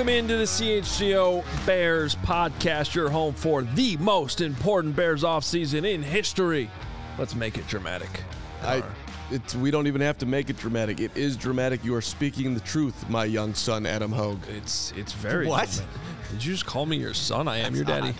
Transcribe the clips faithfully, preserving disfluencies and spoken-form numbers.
Welcome into the C H G O Bears podcast, your home for the most important Bears offseason in history. Let's make it dramatic. I, it's, we don't even have to make it dramatic. It is dramatic. You are speaking the truth, my young son, Adam Hogue. It's it's very What? dramatic. Did you just call me your son? I am your daddy.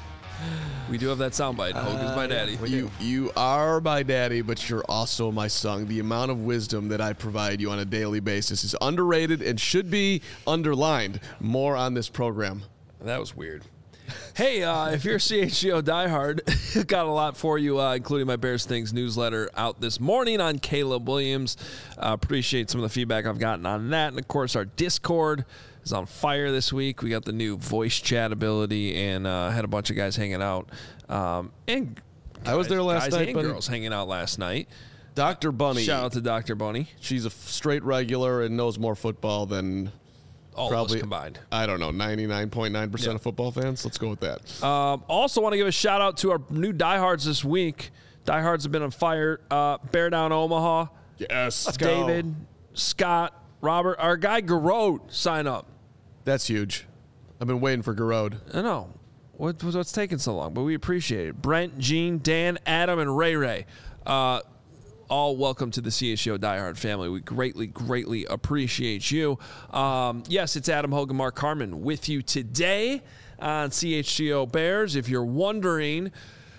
We do have that soundbite. Uh, Hogue is my daddy. yeah, we You, you are my daddy, but you're also my son. The amount of wisdom that I provide you on a daily basis is underrated and should be underlined more on this program. That was weird. Hey, uh, if you're a C H G O diehard, got a lot for you, uh, including my Bears Things newsletter out this morning on Caleb Williams. Uh, appreciate some of the feedback I've gotten on that. And, of course, our Discord is on fire this week. We got the new voice chat ability and uh, had a bunch of guys hanging out. Um, and guys, I was there last guys night, and but girls hanging out last night. Doctor Bunny. Shout out to Doctor Bunny. She's a straight regular and knows more football than All probably of us combined. I don't know, ninety-nine point nine percent Yeah. of football fans. Let's go with that. Um, also want to give a shout out to our new diehards this week. Diehards have been on fire. Uh, Bear Down Omaha. Yes. Let's go. David, Scott, Robert, our guy Garode sign up. That's huge. I've been waiting for Garode. I know. What, what's taking so long? But we appreciate it. Brent, Gene, Dan, Adam, and Ray Ray. Uh, all welcome to the C H G O Diehard family. We greatly, greatly appreciate you. Um, yes, it's Adam Hogue and Mark Carman with you today on C H G O Bears. If you're wondering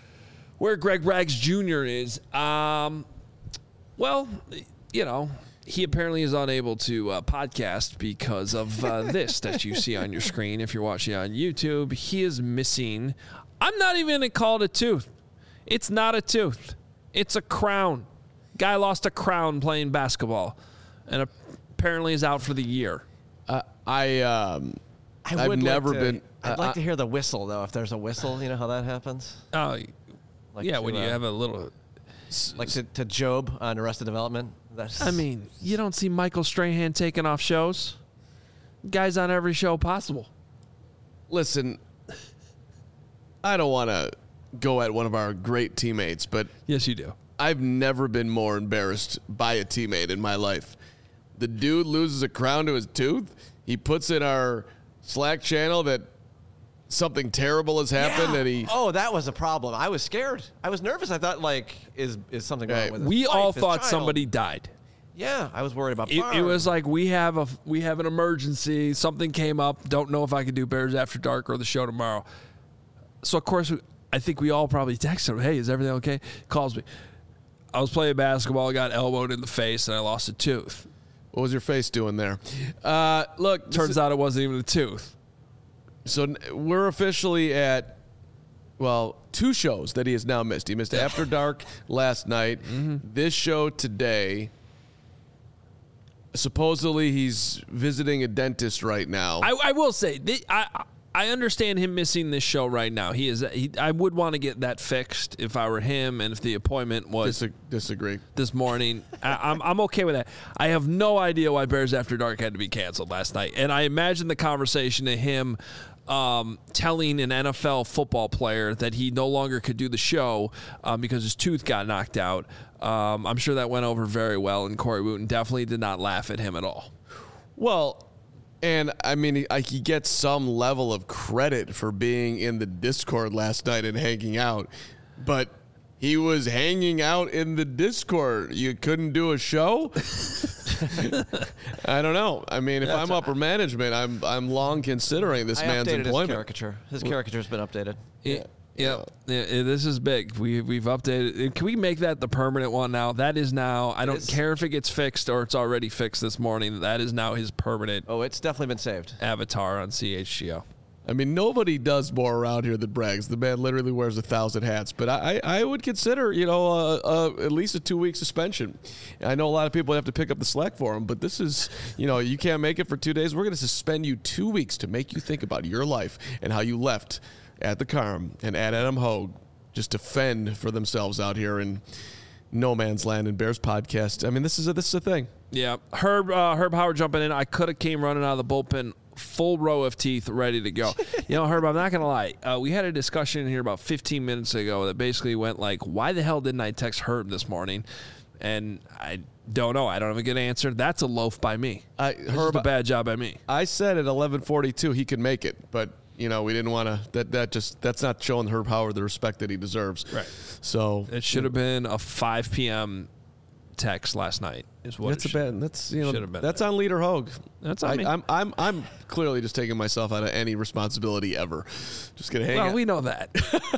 where Greg Rags Junior is, um, well, you know, he apparently is unable to uh, podcast because of uh, this that you see on your screen. If you're watching on YouTube, he is missing. I'm not even going to call it a tooth. It's not a tooth. It's a crown. Guy lost a crown playing basketball and apparently is out for the year. Uh, I um, I I've would never like to, been. I'd uh, like I- to hear the whistle, though, if there's a whistle. You know how that happens? Oh, Like yeah, to, when you uh, have a little. Like to, to Job on Arrested Development. That's, I mean, you don't see Michael Strahan taking off shows. Guy's on every show possible. Listen, I don't want to go at one of our great teammates, but Yes, you do. I've never been more embarrassed by a teammate in my life. The dude loses a crown to his tooth. He puts in our Slack channel that something terrible has happened, Yeah. and he. Oh, that was a problem. I was scared. I was nervous. I thought, like, is is something wrong Right. with his We wife, all his thought child? somebody died. Yeah, I was worried about It, it Barb. was like we have a we have an emergency. Something came up. Don't know if I can do Bears After Dark or the show tomorrow. So of course, we, I think we all probably texted him, "Hey, is everything okay?" Calls me. I was playing basketball, got elbowed in the face, and I lost a tooth. What was your face doing there? Uh, look, this Turns is- out it wasn't even a tooth. So n- we're officially at, well, two shows that he has now missed. He missed After Dark last night, Mm-hmm. this show today. Supposedly he's visiting a dentist right now. I, I will say, th- I I understand him missing this show right now. He is. He, I would want to get that fixed if I were him, and if the appointment was Dis- disagree. this morning. I, I'm I'm okay with that. I have no idea why Bears After Dark had to be canceled last night, and I imagine the conversation to him um, telling an N F L football player that he no longer could do the show um, because his tooth got knocked out. Um, I'm sure that went over very well, and Corey Wooten definitely did not laugh at him at all. Well, and I mean, he, I, he gets some level of credit for being in the Discord last night and hanging out, but he was hanging out in the Discord. You couldn't do a show? I don't know. I mean, if That's I'm upper management, I'm I'm long considering this I man's updated his employment. caricature. His caricature's been updated. Yeah. Yeah, yeah, this is big. We we've updated. Can we make that the permanent one now? That is now. I don't is. care if it gets fixed or it's already fixed this morning. That is now his permanent Oh, it's definitely been saved. avatar on C H G O. I mean, nobody does more around here than Braggs. The man literally wears a thousand hats. But I, I would consider, you know, uh, uh, at least a two-week suspension. I know a lot of people have to pick up the slack for him, but this is, you know, you can't make it for two days. We're going to suspend you two weeks to make you think about your life and how you left at the Carm and at Adam Hogue just to fend for themselves out here in no man's land and Bears podcast. I mean, this is a, this is a thing. Yeah, Herb uh, Herb Howard jumping in. I could have came running out of the bullpen, full row of teeth, ready to go. You know, Herb, I'm not gonna lie. Uh, we had a discussion here about fifteen minutes ago that basically went like, "Why the hell didn't I text Herb this morning?" And I don't know. I don't have a good answer. That's a loaf by me. I This Herb, is a bad job by me. I said at eleven forty-two he could make it, but you know we didn't want to. That that just that's not showing Herb Howard the respect that he deserves. Right. So It should have been a five p.m. text last night. Is what that's it a should- bad. That's you know should have been that's there. on Leader Hogue. That's on I, me. I'm I'm I'm clearly just taking myself out of any responsibility ever. Just gonna hang Well, out. we know that.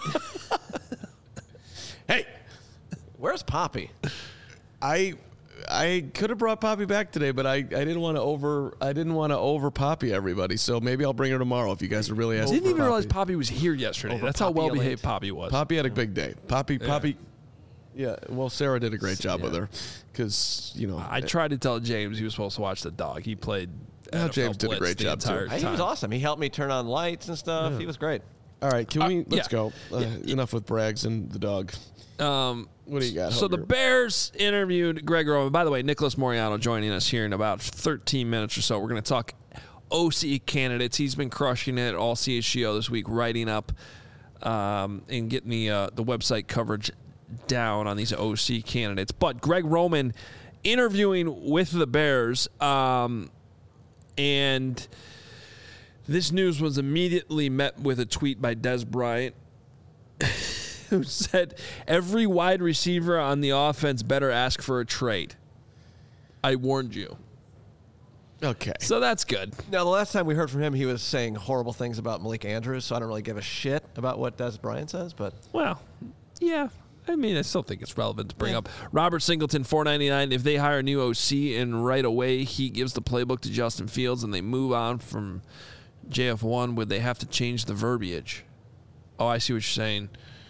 Hey, Where's Poppy? I I could have brought Poppy back today, but I, I didn't want to over I didn't want to over Poppy everybody. So maybe I'll bring her tomorrow if you guys are really asking. Didn't for even realize Poppy. Poppy was here yesterday. Over That's how Poppy well Elliott. behaved Poppy was. Poppy had a big day. Poppy Poppy. Yeah, well, Sarah did a great job Yeah. with her because you know I tried to tell James he was supposed to watch the dog. He played. Yeah, N F L James did a Blitz great the job, too. entire He was time. awesome. He helped me turn on lights and stuff. He was great. All right, can we Uh, let's yeah. go. Uh, enough with Braggs and the dog. Um, What do you got? So the Hoger? Bears interviewed Greg Roman. By the way, Nicholas Moriano joining us here in about thirteen minutes or so. We're going to talk O C candidates. He's been crushing it all C H G O this week, writing up um, and getting the uh, the website coverage down on these O C candidates. But Greg Roman interviewing with the Bears, um, and this news was immediately met with a tweet by Des Bryant, who said every wide receiver on the offense better ask for a trade. I warned you. Okay. So that's good. Now, the last time we heard from him, he was saying horrible things about Malik Andrews, so I don't really give a shit about what Des Bryant says, but Well, yeah. I mean, I still think it's relevant to bring up. Robert Singleton, four ninety-nine. If they hire a new O C and right away he gives the playbook to Justin Fields and they move on from J F one, would they have to change the verbiage? Oh, I see what you're saying.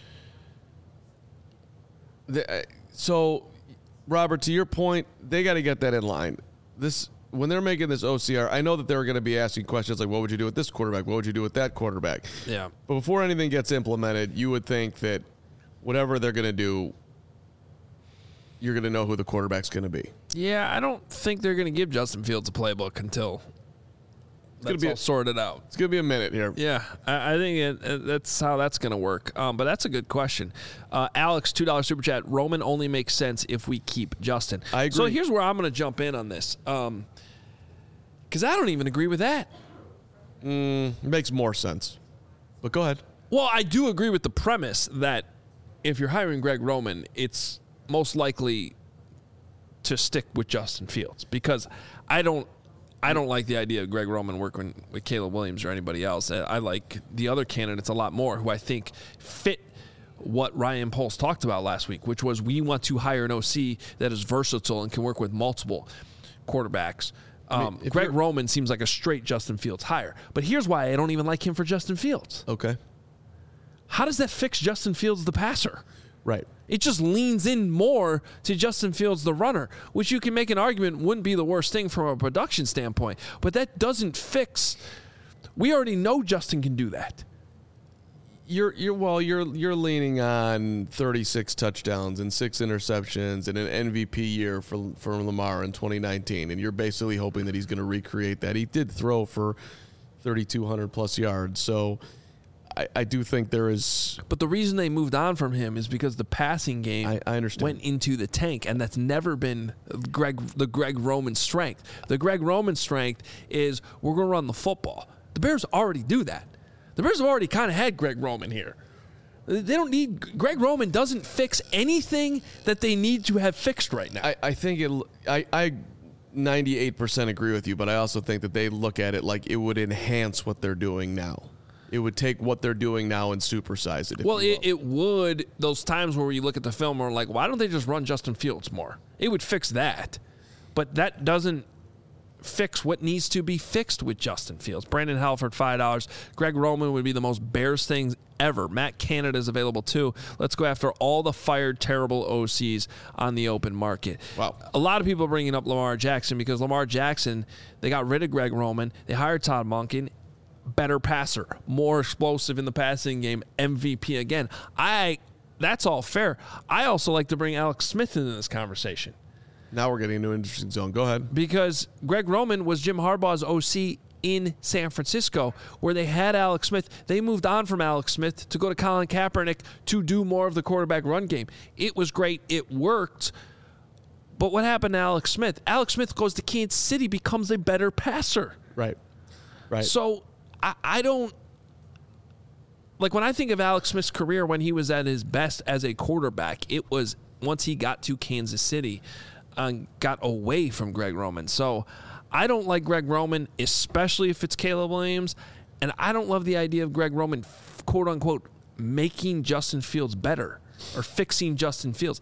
The, uh, so, Robert, to your point, they got to get that in line. This when they're making this O C R, I know that they're going to be asking questions like, "What would you do with this quarterback? What would you do with that quarterback?" Yeah. But before anything gets implemented, you would think that whatever they're going to do, you're going to know who the quarterback's going to be. Yeah, I don't think they're going to give Justin Fields a playbook until gonna that's be all a- sorted out. It's going to be a minute here. Yeah, I, I think it, it, that's how that's going to work. Um, but that's a good question. Uh, Alex, two dollars super chat. Roman only makes sense if we keep Justin. I So agree. here's where I'm going to jump in on this. Um, because I don't even agree with that. It makes more sense. But go ahead. Well, I do agree with the premise that if you're hiring Greg Roman, it's most likely to stick with Justin Fields because I don't I don't like the idea of Greg Roman working with Caleb Williams or anybody else. I I like the other candidates a lot more who I think fit what Ryan Poles talked about last week, which was we want to hire an O C that is versatile and can work with multiple quarterbacks. Um, if Greg you're- Roman seems like a straight Justin Fields hire. But here's why I don't even like him for Justin Fields. Okay. How does that fix Justin Fields, the passer? Right. It just leans in more to Justin Fields, the runner, which you can make an argument wouldn't be the worst thing from a production standpoint. But that doesn't fix. We already know Justin can do that. You're you're well you're you're leaning on thirty-six touchdowns and six interceptions and an M V P year for for Lamar in twenty nineteen, and you're basically hoping that he's going to recreate that. He did throw for thirty-two hundred plus yards, so I, I do think there is. But the reason they moved on from him is because the passing game I- I understand. went into the tank, and that's never been Greg the Greg Roman strength. The Greg Roman strength is we're going to run the football. The Bears already do that. The Bears have already kind of had Greg Roman here. They don't need Greg Roman doesn't fix anything that they need to have fixed right now. I, I think it. I I ninety-eight percent agree with you, but I also think that they look at it like it would enhance what they're doing now. It would take what they're doing now and supersize it. if Well, you it, will. it would, those times where you look at the film and are like, why don't they just run Justin Fields more? It would fix that. But that doesn't fix what needs to be fixed with Justin Fields. Brandon Halford, five dollars. Greg Roman would be the most Bears things ever. Matt Canada is available too. Let's go after all the fired terrible O Cs on the open market. Wow. A lot of people are bringing up Lamar Jackson because Lamar Jackson, they got rid of Greg Roman. They hired Todd Monken. Better passer, more explosive in the passing game, M V P again. I that's all fair. I also like to bring Alex Smith into this conversation Now we're getting into an interesting zone. Go ahead. because Greg Roman was Jim Harbaugh's O C in San Francisco, where they had Alex Smith. They moved on from Alex Smith to go to Colin Kaepernick to do more of the quarterback run game. It was great. It worked. But what happened to Alex Smith? Alex Smith goes to Kansas City, becomes a better passer. Right. Right. So I, I don't like when I think of Alex Smith's career when he was at his best as a quarterback, it was once he got to Kansas City and got away from Greg Roman. So I don't like Greg Roman, especially if it's Caleb Williams. And I don't love the idea of Greg Roman, quote unquote, making Justin Fields better or fixing Justin Fields.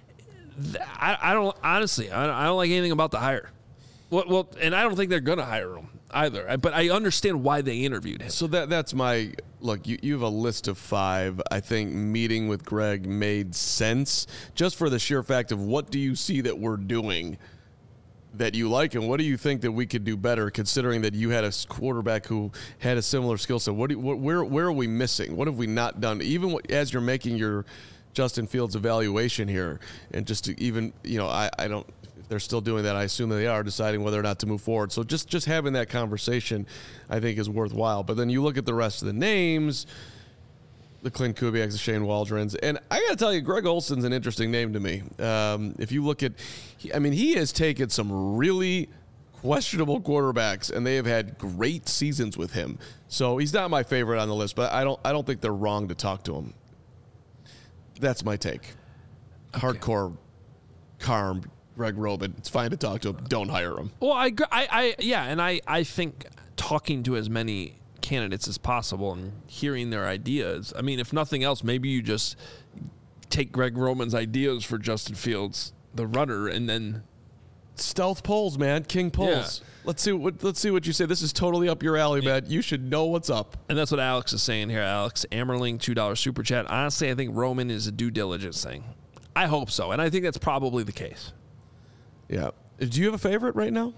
I, I don't honestly, I don't, I don't like anything about the hire. Well, well, and I don't think they're going to hire him either. But I understand why they interviewed him. So that that's my look. You, you have a list of five. I think meeting with Greg made sense just for the sheer fact of what do you see that we're doing that you like, and what do you think that we could do better, considering that you had a quarterback who had a similar skill set? What, do you, what where where are we missing? What have we not done? Even as you're making your Justin Fields evaluation here, and just to even you know, I I don't. If they're still doing that, I assume that they are deciding whether or not to move forward. So just, just having that conversation, I think, is worthwhile. But then you look at the rest of the names, the Clint Kubiaks, the Shane Waldrons, and I got to tell you, Greg Olson's an interesting name to me. Um, if you look at, I mean, he has taken some really questionable quarterbacks, and they have had great seasons with him. So he's not my favorite on the list, but I don't, I don't think they're wrong to talk to him. That's my take. Okay. Hardcore, calm. Greg Roman, it's fine to talk to him. Don't hire him. Well, I, I, I yeah, and I, I think talking to as many candidates as possible and hearing their ideas. I mean, if nothing else, maybe you just take Greg Roman's ideas for Justin Fields, the runner, and then stealth polls, man, king polls. Yeah. Let's see what let's see what you say. This is totally up your alley, yeah. man. You should know what's up. And that's what Alex is saying here. Alex Ammerling, two dollar super chat. Honestly, I think Roman is a due diligence thing. I hope so, and I think that's probably the case. Yeah. Do you have a favorite right now?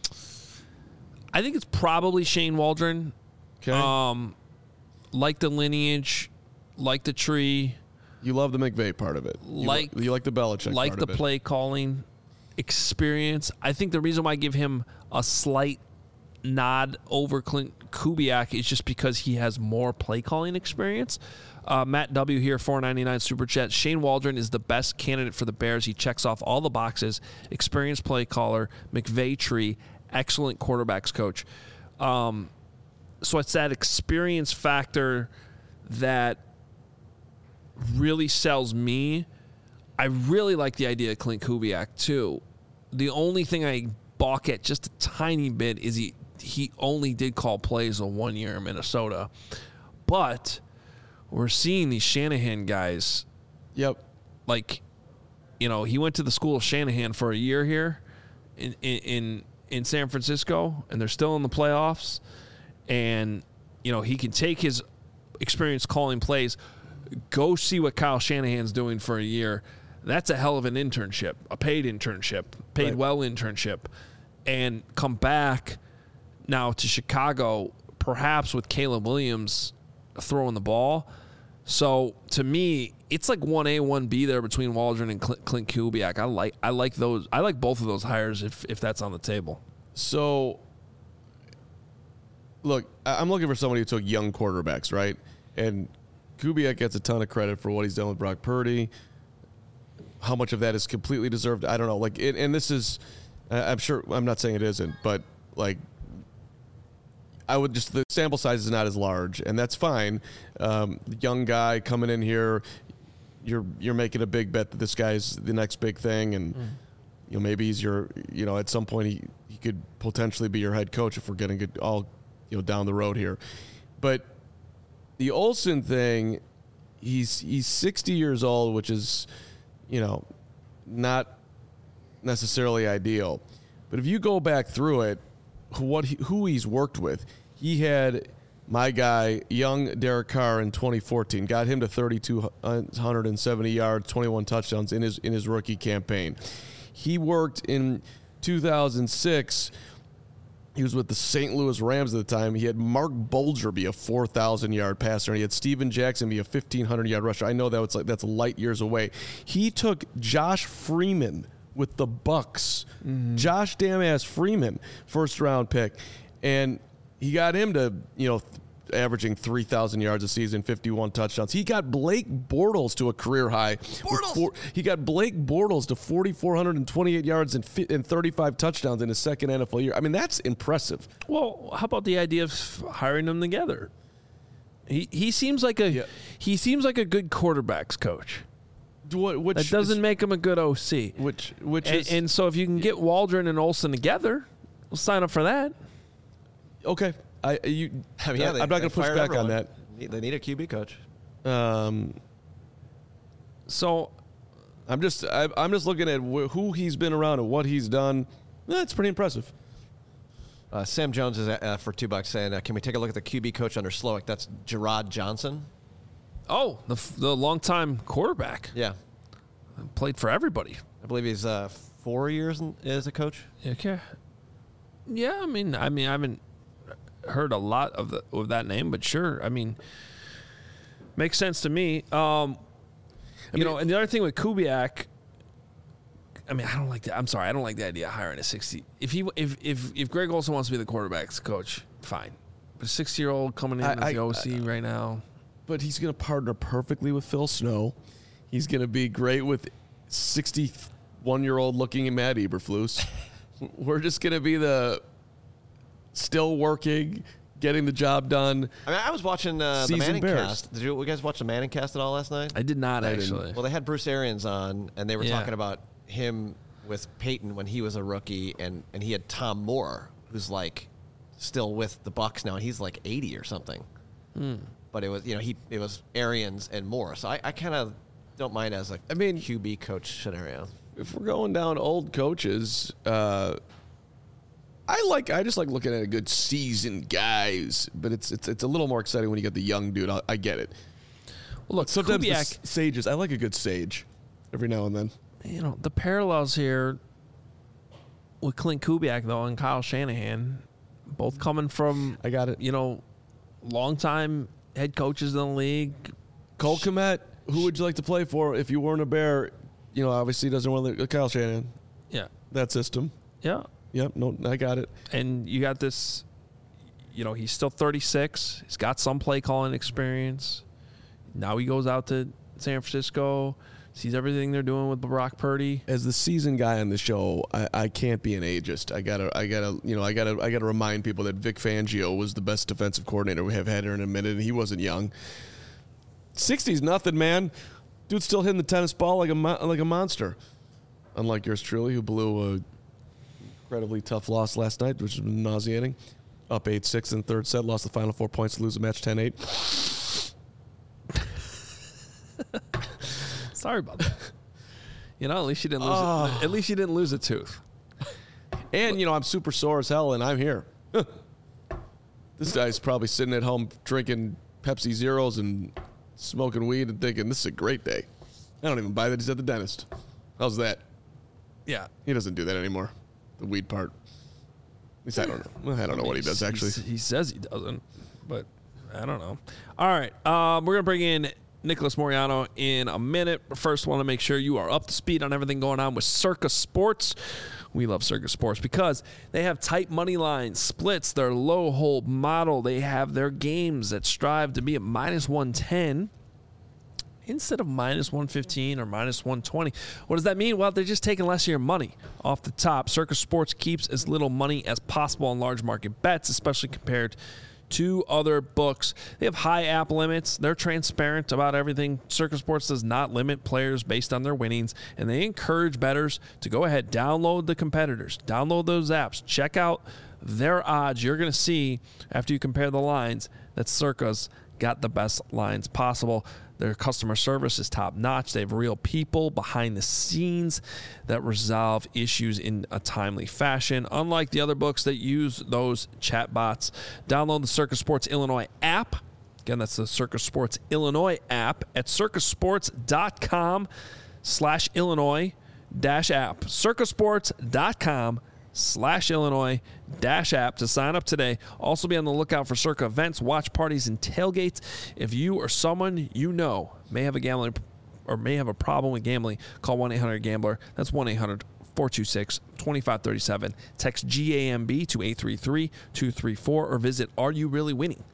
I think it's probably Shane Waldron. Okay. Um, like the lineage, like the tree. You love the McVay part of it. You like li- you like the Belichick like part the of it. play calling experience. I think the reason why I give him a slight nod over Clint Kubiak is just because he has more play calling experience. Uh, Matt W. here, four ninety-nine super chat. Shane Waldron is the best candidate for the Bears. He checks off all the boxes. Experienced play caller, McVay tree, excellent quarterbacks coach. Um, so it's that experience factor that really sells me. I really like the idea of Clint Kubiak too. The only thing I balk at just a tiny bit is he he only did call plays a one year in Minnesota, but we're seeing these Shanahan guys. Yep. Like, you know, he went to the school of Shanahan for a year here in in in San Francisco, and they're still in the playoffs. And, you know, he can take his experience calling plays, go see what Kyle Shanahan's doing for a year. That's a hell of an internship, a paid internship, paid right. well internship, and come back now to Chicago, perhaps with Caleb Williams throwing the ball. So to me, it's like one A, one B there between Waldron and Clint, Clint Kubiak. I like I like those. I like both of those hires if if that's on the table. So, look, I'm looking for somebody who took young quarterbacks, right? And Kubiak gets a ton of credit for what he's done with Brock Purdy. How much of that is completely deserved, I don't know. Like, it, and this is, I'm sure, I'm not saying it isn't, but like, I would just, the sample size is not as large, and that's fine. Um, young guy coming in here, you're you're making a big bet that this guy's the next big thing, and mm. you know maybe he's your, you know, at some point he, he could potentially be your head coach if we're getting it all, you know, down the road here. But the Olsen thing, he's he's sixty years old, which is, you know, not necessarily ideal. But if you go back through it, what he, who he's worked with, he had my guy, young Derek Carr in twenty fourteen, got him to three thousand two hundred seventy yards, twenty-one touchdowns in his in his rookie campaign. He worked in two thousand six. He was with the Saint Louis Rams at the time. He had Mark Bulger be a four thousand yard passer, and he had Steven Jackson be a fifteen hundred yard rusher. I know that was like that's light years away. He took Josh Freeman with the Bucks, mm-hmm. Josh damn ass Freeman, first round pick, and he got him to, you know, averaging three thousand yards a season, fifty-one touchdowns. He got Blake Bortles to a career high. Bortles! Four, he got Blake Bortles to four thousand four hundred twenty-eight yards and, fi- and thirty-five touchdowns in his second N F L year. I mean, that's impressive. Well, how about the idea of hiring them together? He he seems like a Yeah. he seems like a good quarterbacks coach. What, which That doesn't is, make him a good O C. which which And, is and so if you can get Waldron and Olsen together, we'll sign up for that. okay. I you. I mean, yeah, they, I'm not they going to push fired back everyone. on that. Need- They need a Q B coach. Um, So I'm just I, I'm just looking at wh- who he's been around and what he's done. That's pretty impressive. Uh, Sam Jones is uh, for two bucks saying, uh, "Can we take a look at the Q B coach under Slowick?" That's Gerard Johnson. oh, the f- the longtime quarterback Yeah, played for everybody. I believe he's uh, four years in, as a coach. Okay. Yeah, I mean, I mean, I haven't heard a lot of the of that name, but sure. I mean, makes sense to me. Um, you mean- know, and the other thing with Kubiak, I mean, I don't like that. I'm sorry, I don't like the idea of hiring a sixty. If he, if if if Greg Olsen wants to be the quarterback's coach, fine. But a sixty year old coming in I- as I- the O C right now, But he's going to partner perfectly with Phil Snow. He's going to be great with sixty-one-year-old looking at Matt Eberflus. We're just going to be the still working, getting the job done. I mean, I was watching uh, the Seasoned Manning Bears. cast. Did you, you guys watch the Manning cast at all last night? I did not I didn't. actually. Well, they had Bruce Arians on, and they were Yeah. talking about him with Peyton when he was a rookie, and, and he had Tom Moore, who's like still with the Bucks now, and he's like eighty or something. Hmm. But it was you know he it was Arians and Moore, so I, I kind of don't mind as a I mean- Q B coach scenario. If we're going down old coaches, uh, I like. I just like looking at a good seasoned guys, but it's it's it's a little more exciting when you get the young dude. I, I get it. Well, look, Sometimes the Kubiak, s- sages. I like a good sage every now and then. you know, the parallels here with Clint Kubiak though and Kyle Shanahan, both coming from I got it. you know, longtime head coaches in the league. Cole Kmet, who would you like to play for if you weren't a Bear? You know, obviously doesn't want to. Kyle Shanahan, Yeah, that system. yeah, Yep, no, I got it. and you got this. You know, he's still thirty-six. He's got some play calling experience. Now he goes out to San Francisco, sees everything they're doing with Brock Purdy. As the seasoned guy on the show, I, I can't be an ageist. I gotta, I gotta, you know, I gotta, I gotta remind people that Vic Fangio was the best defensive coordinator we have had here in a minute, and he wasn't young. sixty's nothing, man. Dude's still hitting the tennis ball like a mo- like a monster. Unlike yours truly, who blew a incredibly tough loss last night, which was nauseating. Up eight six in the third set, lost the final four points to lose the match ten eight. Sorry about that. You know, at least you didn't lose. Oh. A, at least you didn't lose a tooth. And, you know, I'm super sore as hell, and I'm here. This guy's probably sitting at home drinking Pepsi Zeros and smoking weed and thinking, this is a great day. I don't even buy that he's at the dentist. How's that? Yeah. He doesn't do that anymore, the weed part. At least I don't know. Well, I don't know what he does, actually. He's- He says he doesn't, but I don't know. All right. Um, we're going to bring in Nicholas Moriano in a minute. But first, want to make sure you are up to speed on everything going on with Circa Sports. We love Circa Sports because they have tight money lines, splits, their low hold model. They have their games that strive to be at minus one ten instead of minus one fifteen or minus one twenty. What does that mean? Well, they're just taking less of your money off the top. Circa Sports keeps as little money as possible on large market bets, especially compared to other books. They have high app limits. They're transparent about everything. Circa Sports does not limit players based on their winnings, and they encourage bettors to go ahead, download the competitors, download those apps, check out their odds. You're going to see, after you compare the lines, that Circa's got the best lines possible. Their customer service is top notch. They have real people behind the scenes that resolve issues in a timely fashion, unlike the other books that use those chatbots. Download the Circa Sports Illinois app. Again, that's the Circa Sports Illinois app at circasports.com slash Illinois dash app. circasports.com slash Illinois dash app to sign up today. Also be on the lookout for Circa events, watch parties, and tailgates. If you or someone you know may have a gambling or may have a problem with gambling, call one eight hundred gambler. That's one eight hundred four two six two five three seven. Text G A M B to eight three three two three four or visit are you really winning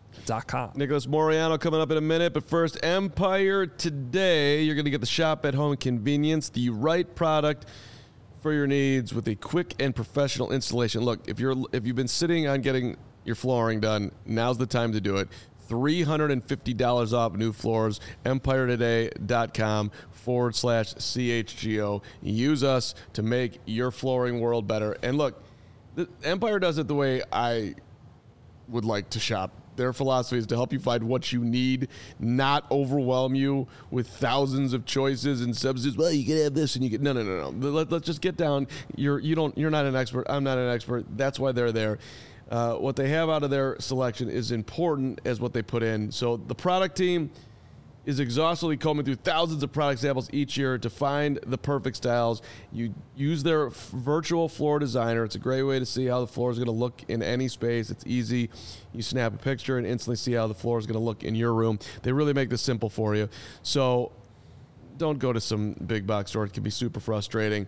Dot com. Nicholas Moreano coming up in a minute, but first, Empire Today. You're going to get the shop at home convenience, the right product for your needs with a quick and professional installation. Look, if you're if you've been sitting on getting your flooring done, now's the time to do it. three hundred fifty dollars off new floors. Empire Today dot com forward slash C H G O. Use us to make your flooring world better. And look, the Empire does it the way I would like to shop. Their philosophy is to help you find what you need, not overwhelm you with thousands of choices and substitutes. Well, you can have this and you get no, no, no, no. Let, let's just get down. You're you don't you're not an expert. I'm not an expert. That's why they're there. Uh, what they have out of their selection is important as what they put in. So the product team is exhaustively combing through thousands of product samples each year to find the perfect styles. You use their f- virtual floor designer. It's a great way to see how the floor is going to look in any space. It's easy. You snap a picture and instantly see how the floor is going to look in your room. They really make this simple for you. So don't go to some big box store. It can be super frustrating.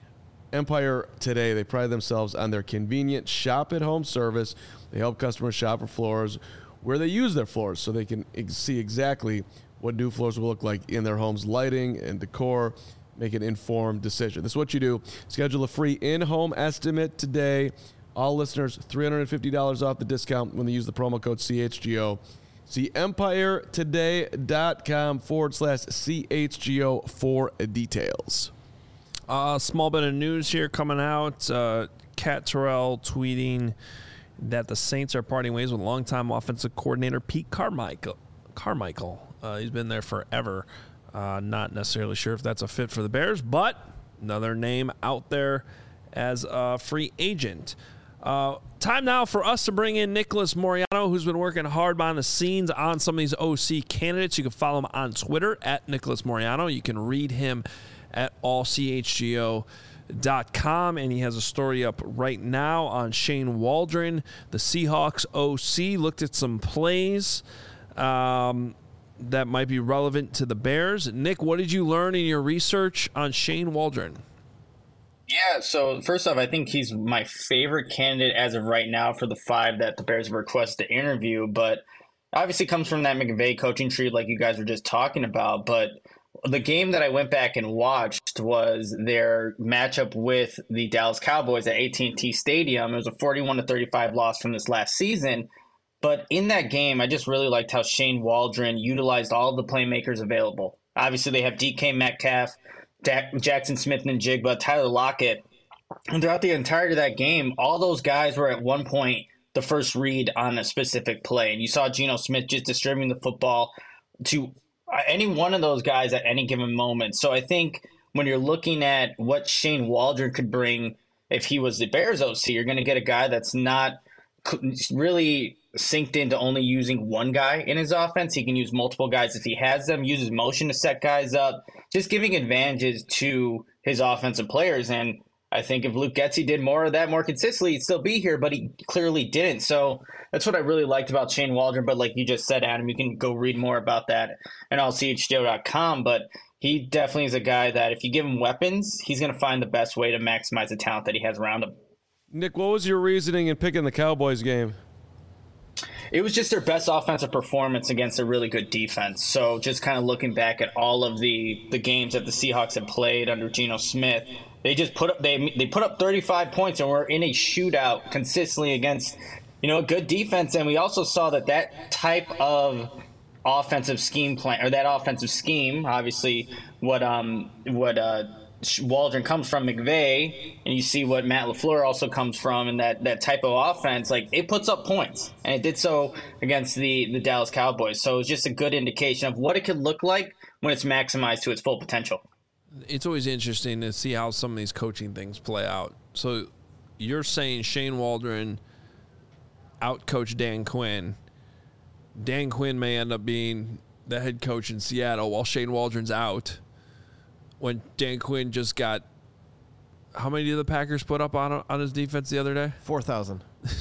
Empire Today, they pride themselves on their convenient shop-at-home service. They help customers shop for floors where they use their floors so they can ex- see exactly what new floors will look like in their homes, lighting and decor. Make an informed decision. This is what you do. Schedule a free in-home estimate today. All listeners, three hundred fifty dollars off the discount when they use the promo code C H G O. See empire today dot com forward slash C H G O for details. A uh, small bit of news here coming out. Uh, Cat Terrell tweeting that the Saints are parting ways with longtime offensive coordinator Pete Carmichael. Carmichael. Uh, he's been there forever. Uh, not necessarily sure if that's a fit for the Bears, but another name out there as a free agent. Uh, time now for us to bring in Nicholas Moreano, who's been working hard behind the scenes on some of these O C candidates. You can follow him on Twitter at Nicholas Moreano. You can read him at all C H G O dot com, and he has a story up right now on Shane Waldron, the Seahawks O C. Looked at some plays um, that might be relevant to the Bears. Nick, what did you learn in your research on Shane Waldron? Yeah, so first off, I think he's my favorite candidate as of right now for the five that the Bears have requested to interview, but obviously comes from that McVay coaching tree like you guys were just talking about. But the game that I went back and watched was their matchup with the Dallas Cowboys at A T and T Stadium. It was a forty-one to thirty-five loss from this last season. But in that game, I just really liked how Shane Waldron utilized all of the playmakers available. Obviously, they have D K Metcalf, Dak, Jackson Smith and Jigba, Tyler Lockett. And throughout the entirety of that game, all those guys were at one point the first read on a specific play. And you saw Geno Smith just distributing the football to any one of those guys at any given moment. So I think when you're looking at what Shane Waldron could bring if he was the Bears O C, you're going to get a guy that's not really synced into only using one guy in his offense. He can use multiple guys if he has them, uses motion to set guys up, just giving advantages to his offensive players. And I think if Luke Getsy did more of that more consistently, he'd still be here, but he clearly didn't. So that's what I really liked about Shane Waldron. But like you just said, Adam, you can go read more about that at all C H G O dot com. But he definitely is a guy that if you give him weapons, he's going to find the best way to maximize the talent that he has around him. Nick, what was your reasoning in picking the Cowboys game? It was just their best offensive performance against a really good defense. So just kind of looking back at all of the, the games that the Seahawks have played under Geno Smith, they just put up they they put up thirty-five points and were in a shootout consistently against, you know, a good defense. And we also saw that that type of offensive scheme plan or that offensive scheme, obviously what um what uh Waldron comes from McVay, and you see what Matt LaFleur also comes from, and that, that type of offense, like it puts up points, and it did so against the, the Dallas Cowboys. So it's just a good indication of what it could look like when it's maximized to its full potential. It's always interesting to see how some of these coaching things play out. So you're saying Shane Waldron outcoached Dan Quinn. Dan Quinn may end up being the head coach in Seattle while Shane Waldron's out. When Dan Quinn just got, how many did the Packers put up on on his defense the other day? four thousand.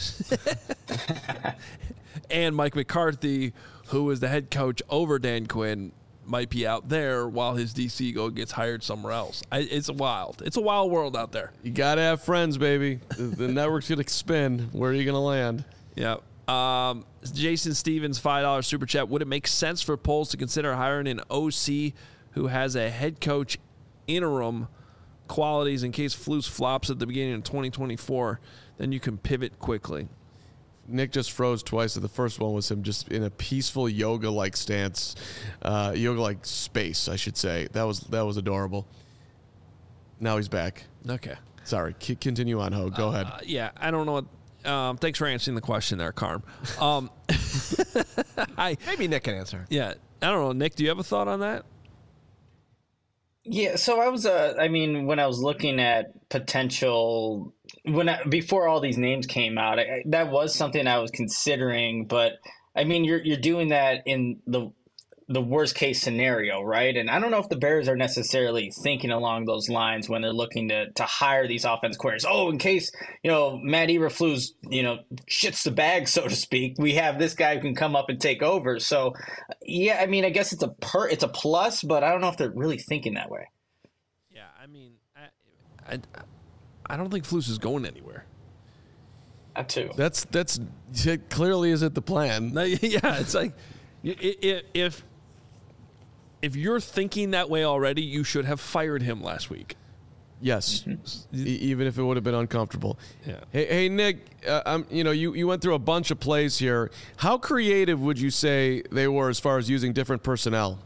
And Mike McCarthy, who was the head coach over Dan Quinn, might be out there while his D C go gets hired somewhere else. I, it's wild. It's a wild world out there. You got to have friends, baby. The, the network's going to spin. Where are you going to land? Yeah. Um, Jason Stevens, five dollars super chat. Would it make sense for Poles to consider hiring an O C who has a head coach interim qualities in case Flus flops at the beginning of twenty twenty-four? Then you can pivot quickly. Nick just froze twice. The first one was him just in a peaceful yoga-like stance, uh, yoga-like space, I should say. That was that was adorable. Now he's back. Okay. Sorry. C- continue on, Ho. Go uh, ahead. Yeah, I don't know what. Um, thanks for answering the question there, Carm. Um, I Maybe Nick can answer. yeah, I don't know, Nick. Do you have a thought on that? Yeah, so I was, uh, I mean, when I was looking at potential, when I, before all these names came out, I, that was something I was considering. But I mean, you're you're doing that in the the worst case scenario, right? And I don't know if the Bears are necessarily thinking along those lines when they're looking to to hire these offense coordinators. Oh, in case, you know, Matt Eberflus, you know, shits the bag, so to speak, we have this guy who can come up and take over. So, yeah, I mean, I guess it's a per, it's a plus, but I don't know if they're really thinking that way. Yeah, I mean, I I, I don't think Flus is going anywhere. That too. That's that's it clearly isn't the plan. No, yeah, it's like if if if you're thinking that way already, you should have fired him last week. Yes, mm-hmm. e- even if it would have been uncomfortable. Yeah. Hey, hey Nick, uh, um, you know, you, you went through a bunch of plays here. How creative would you say they were as far as using different personnel?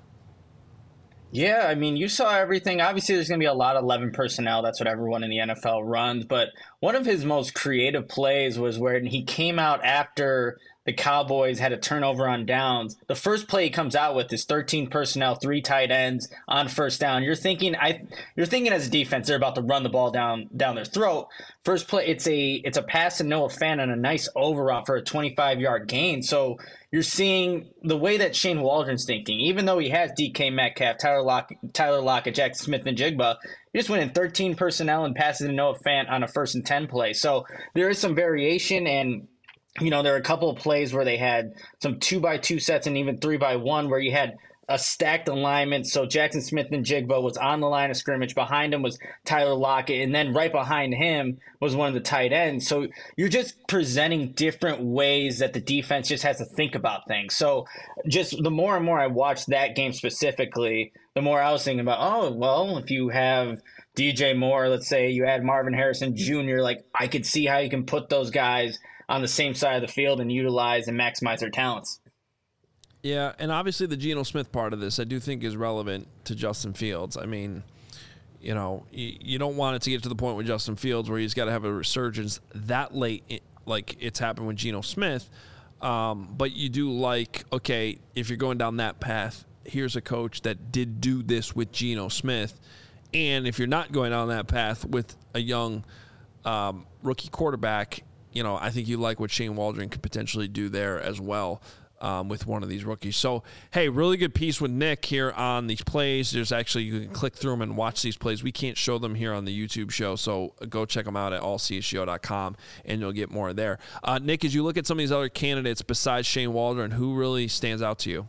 Yeah, I mean, you saw everything. Obviously, there's going to be a lot of eleven personnel. That's what everyone in the N F L runs. But one of his most creative plays was when he came out after the Cowboys had a turnover on downs. The first play he comes out with is thirteen personnel, three tight ends on first down. You're thinking, I, you're thinking as a defense, they're about to run the ball down down their throat. First play, it's a it's a pass to Noah Fant and a nice overrun for a twenty-five yard gain. So you're seeing the way that Shane Waldron's thinking. Even though he has D K Metcalf, Tyler Lock, Tyler Lockett, Jackson Smith, and Jigba, he just went in thirteen personnel and passes to Noah Fant on a first and ten play. So there is some variation, and you know, there are a couple of plays where they had some two by two sets and even three by one where you had a stacked alignment. So Jackson Smith and Jigba was on the line of scrimmage. Behind him was Tyler Lockett. And then right behind him was one of the tight ends. So you're just presenting different ways that the defense just has to think about things. So just the more and more I watched that game specifically, the more I was thinking about, oh, well, if you have D J Moore, let's say you add Marvin Harrison Junior, like I could see how you can put those guys on the same side of the field and utilize and maximize their talents. Yeah, and obviously the Geno Smith part of this I do think is relevant to Justin Fields. I mean, you know, you, you don't want it to get to the point with Justin Fields where he's got to have a resurgence that late, like it's happened with Geno Smith. Um, but you do like, okay, if you're going down that path, here's a coach that did do this with Geno Smith. And if you're not going down that path with a young um, rookie quarterback, you know, I think you like what Shane Waldron could potentially do there as well um, with one of these rookies. So, hey, really good piece with Nick here on these plays. There's actually, you can click through them and watch these plays. We can't show them here on the YouTube show, so go check them out at all c s g o dot com, and you'll get more there. Uh, Nick, as you look at some of these other candidates besides Shane Waldron, who really stands out to you?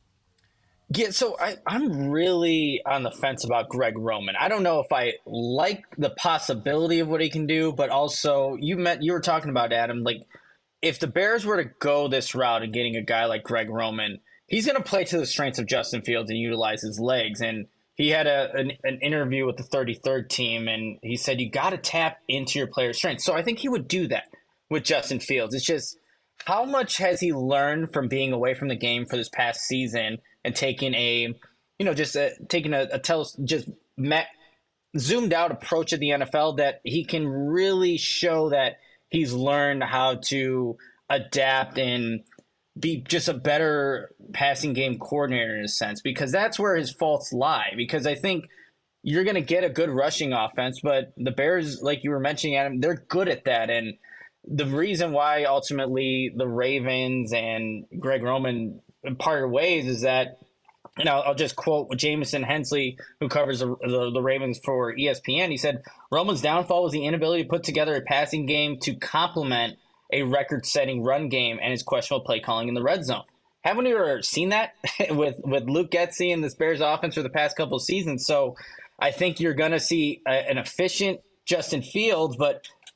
Yeah, so I, I'm really on the fence about Greg Roman. I don't know if I like the possibility of what he can do, but also you met you were talking about, Adam, like if the Bears were to go this route and getting a guy like Greg Roman, he's going to play to the strengths of Justin Fields and utilize his legs. And he had a an, an interview with the thirty-third team, and he said you got to tap into your player's strengths. So I think he would do that with Justin Fields. It's just how much has he learned from being away from the game for this past season and taking a, you know, just a, taking a, a tele, just met, zoomed out approach of the N F L that he can really show that he's learned how to adapt and be just a better passing game coordinator in a sense, because that's where his faults lie. Because I think you're going to get a good rushing offense, but the Bears, like you were mentioning, Adam, they're good at that. And the reason why ultimately the Ravens and Greg Roman parted ways is that, you know, I'll just quote Jamison Hensley, who covers the, the, the Ravens for E S P N. He said, Roman's downfall was the inability to put together a passing game to complement a record-setting run game and his questionable play calling in the red zone. Haven't we ever seen that with, with Luke Getsy and this Bears offense for the past couple of seasons? So I think you're going to see a, an efficient Justin Fields, but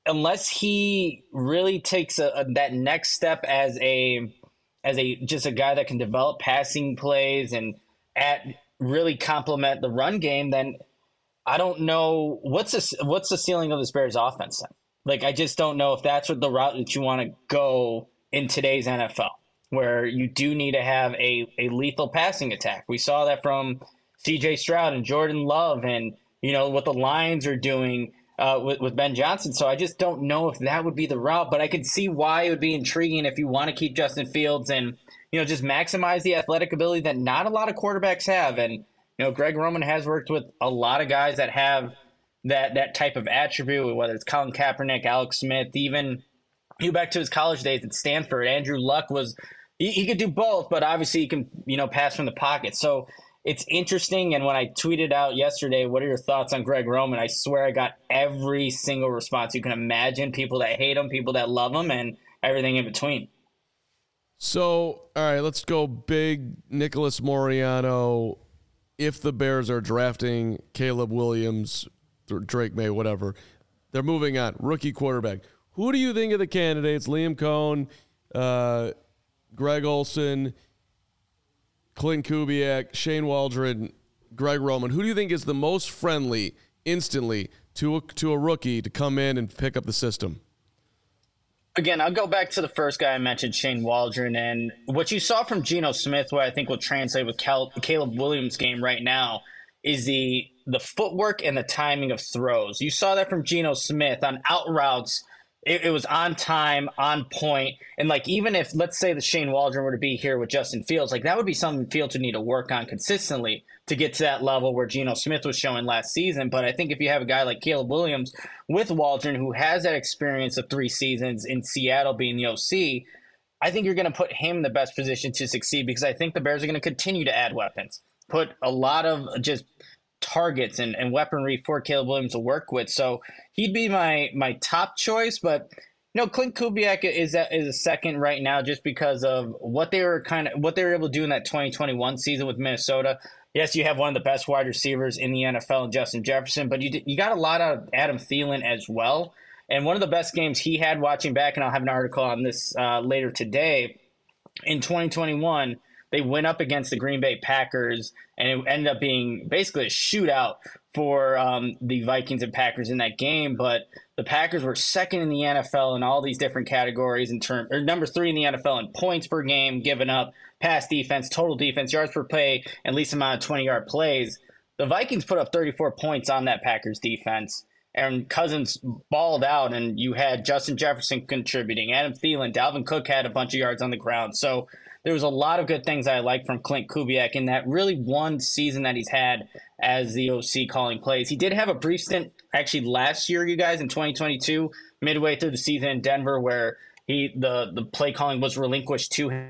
unless he really takes a, a, that next step as a as a just a guy that can develop passing plays and at really complement the run game, then I don't know what's the, what's the ceiling of this Bears offense then. Like, I just don't know if that's what the route that you want to go in today's N F L, where you do need to have a, a lethal passing attack. We saw that from C J Stroud and Jordan Love and, you know, what the Lions are doing uh, with, with Ben Johnson. So I just don't know if that would be the route, but I could see why it would be intriguing if you want to keep Justin Fields and, you know, just maximize the athletic ability that not a lot of quarterbacks have. And, you know, Greg Roman has worked with a lot of guys that have that that type of attribute, whether it's Colin Kaepernick, Alex Smith, even you back to his college days at Stanford. Andrew Luck was he, he could do both, but obviously he can, you know, pass from the pocket. So it's interesting. And when I tweeted out yesterday, what are your thoughts on Greg Roman? I swear I got every single response you can imagine. People that hate him, people that love him, and everything in between. So, all right, let's go big Nicholas Moriano. If the Bears are drafting Caleb Williams, Drake May, whatever, they're moving on. Rookie quarterback. Who do you think of the candidates? Liam Cohn, uh, Greg Olsen, Clint Kubiak, Shane Waldron, Greg Roman. Who do you think is the most friendly instantly to a, to a rookie to come in and pick up the system? Again, I'll go back to the first guy I mentioned, Shane Waldron, and what you saw from Geno Smith, what I think will translate with Cal- Caleb Williams' game right now, is the the footwork and the timing of throws. You saw that from Geno Smith on out routes. It, it was on time, on point, and like even if let's say the Shane Waldron were to be here with Justin Fields, like that would be something Fields would need to work on consistently to get to that level where Geno Smith was showing last season. But I think if you have a guy like Caleb Williams with Waldron, who has that experience of three seasons in Seattle being the O C, I think you're going to put him in the best position to succeed because I think the Bears are going to continue to add weapons, put a lot of just targets and, and weaponry for Caleb Williams to work with. So he'd be my my top choice, but you know, Clint Kubiak is a, is a second right now just because of what they were kind of what they were able to do in that twenty twenty-one season with Minnesota. Yes, you have one of the best wide receivers in the N F L in Justin Jefferson, but you you got a lot out of Adam Thielen as well. And one of the best games he had watching back, and I'll have an article on this uh, later today, in twenty twenty-one, they went up against the Green Bay Packers, and it ended up being basically a shootout for um, the Vikings and Packers in that game. But the Packers were second in the N F L in all these different categories in term, or number three in the N F L in points per game given up, pass defense, total defense, yards per play, and least amount of twenty-yard plays. The Vikings put up thirty-four points on that Packers defense, and Cousins balled out, and you had Justin Jefferson contributing, Adam Thielen, Dalvin Cook had a bunch of yards on the ground. So there was a lot of good things I like from Clint Kubiak in that really one season that he's had as the O C calling plays. He did have a brief stint actually last year, you guys, in twenty twenty-two, midway through the season in Denver, where he the, the play calling was relinquished to him.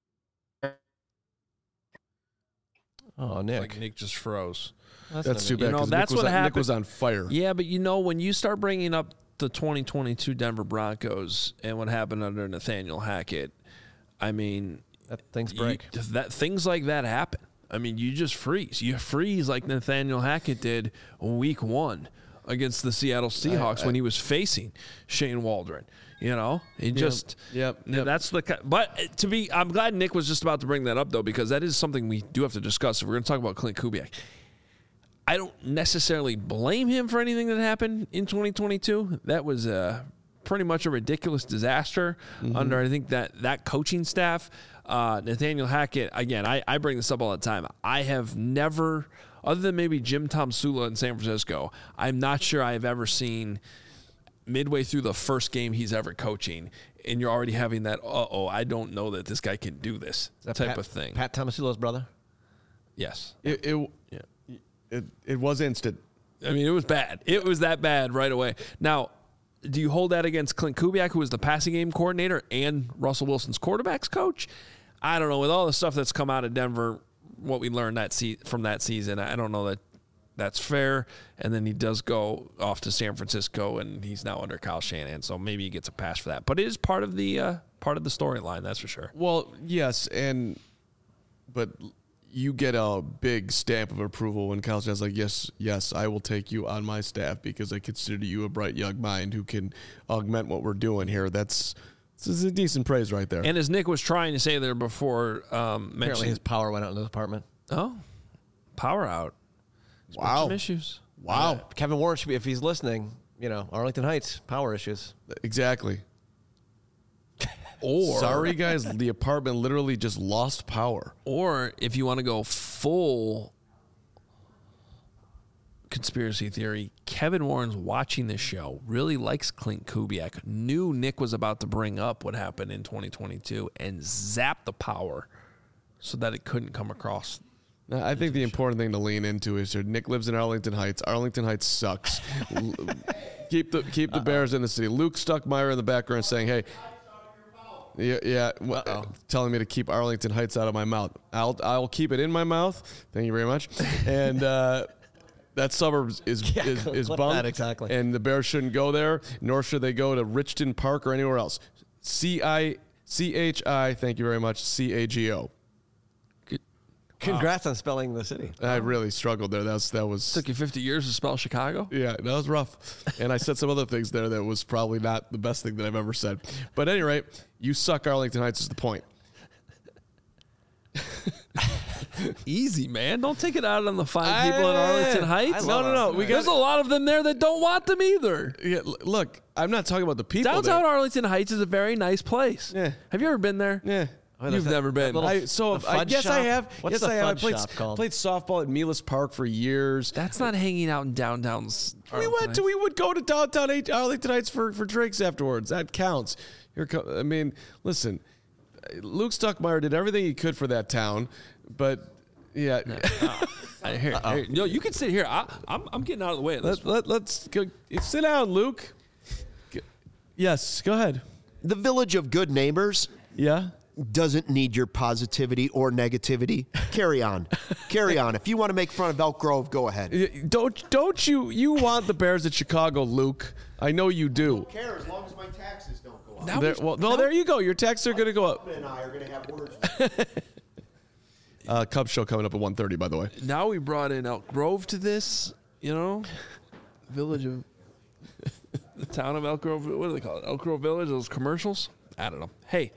Oh, Nick. Like Nick just froze. That's, that's too bad. You know, that's Nick was what on, happened. Nick was on fire. Yeah, but you know, when you start bringing up the twenty twenty-two Denver Broncos and what happened under Nathaniel Hackett, I mean, that things break. You, that things like that happen. I mean, you just freeze. You freeze like Nathaniel Hackett did week one against the Seattle Seahawks I, I, when he was facing Shane Waldron. You know, he yep, just yep, yep. That's the. But to be, I'm glad Nick was just about to bring that up though, because that is something we do have to discuss. If we're going to talk about Clint Kubiak, I don't necessarily blame him for anything that happened in twenty twenty-two. That was a pretty much a ridiculous disaster mm-hmm. under I think that that coaching staff. Uh, Nathaniel Hackett, again, I, I bring this up all the time. I have never, other than maybe Jim Tomsula in San Francisco, I'm not sure I have ever seen midway through the first game he's ever coaching, and you're already having that, uh-oh, I don't know that this guy can do this type Pat, of thing. Pat Tomasula's brother? Yes. It it, yeah. it it was instant. I mean, it was bad. It was that bad right away. Now, do you hold that against Clint Kubiak, who was the passing game coordinator and Russell Wilson's quarterbacks coach? I don't know. With all the stuff that's come out of Denver, what we learned that se- from that season, I don't know that that's fair. And then he does go off to San Francisco, and he's now under Kyle Shanahan, so maybe he gets a pass for that. But it is part of the uh, part of the storyline, that's for sure. Well, yes, and but you get a big stamp of approval when Kyle Shanahan's like, yes, yes, I will take you on my staff because I consider you a bright young mind who can augment what we're doing here. That's this is a decent praise right there. And as Nick was trying to say there before, um, Apparently mentioning his power went out in the apartment. oh, power out. wow. Some issues. Wow. Uh, Kevin Warren should be, if he's listening, you know, Arlington Heights, power issues. Exactly. Or Sorry, guys, the apartment literally just lost power. Or if you want to go full conspiracy theory, Kevin Warren's watching this show, really likes Clint Kubiak, knew Nick was about to bring up what happened in twenty twenty-two, and zapped the power so that it couldn't come across. Now, I think the important thing to lean into is here. Nick lives in Arlington Heights. Arlington Heights sucks. L- keep the keep the Bears in the city. Luke Stuckmeyer in the background saying, "Hey, yeah, yeah, w- telling me to keep Arlington Heights out of my mouth. I'll I'll keep it in my mouth. Thank you very much." And uh, that suburb is Yeah, is is clip bummed. that exactly. And the Bears shouldn't go there, nor should they go to Richton Park or anywhere else. C I C H I. Thank you very much. C A G O. Congrats on spelling the city. I really struggled there. That was that was Took you fifty years to spell Chicago? yeah, that was rough. And I said some other things there that was probably not the best thing that I've ever said. But at any rate, you suck. Arlington Heights is the point. Easy, man. Don't take it out on the fine people in Arlington Heights. I No, love no, no. Arlington We There's got a lot of them there that don't want them either. yeah, l- look. I'm not talking about the people. Downtown there. Arlington Heights is a very nice place. Yeah. Have you ever been there? Yeah. Oh, You've that- never that been. little- I, so the I, fudge yes, I shop? have. What's yes, the I have. I fudge played, shop called? played softball at Milas Park for years. That's not hanging out in downtown. we went to. We would go to downtown H- Arlington Heights for, for drinks afterwards. That counts. Here, co- I mean, listen. Luke Stuckmeyer did everything he could for that town, but yeah. I, here, here, no, you can sit here. I, I'm, I'm getting out of the way of this. Let, let, let's go. Sit down, Luke. G- Yes, go ahead. The Village of Good Neighbors Yeah. doesn't need your positivity or negativity. Carry on. Carry on. If you want to make fun of Elk Grove, go ahead. Y- Don't don't you you want the Bears at Chicago, Luke? I know you do. Care as long as my taxes don't go up. Now There, we've- well, no, there you go. Your taxes are going to go up. and I are going to have words. Uh, Cubs show coming up at one thirty, by the way. now we brought in Elk Grove to this, you know, village of the town of Elk Grove. What do they call it? Elk Grove Village. Those commercials. I don't know. Hey,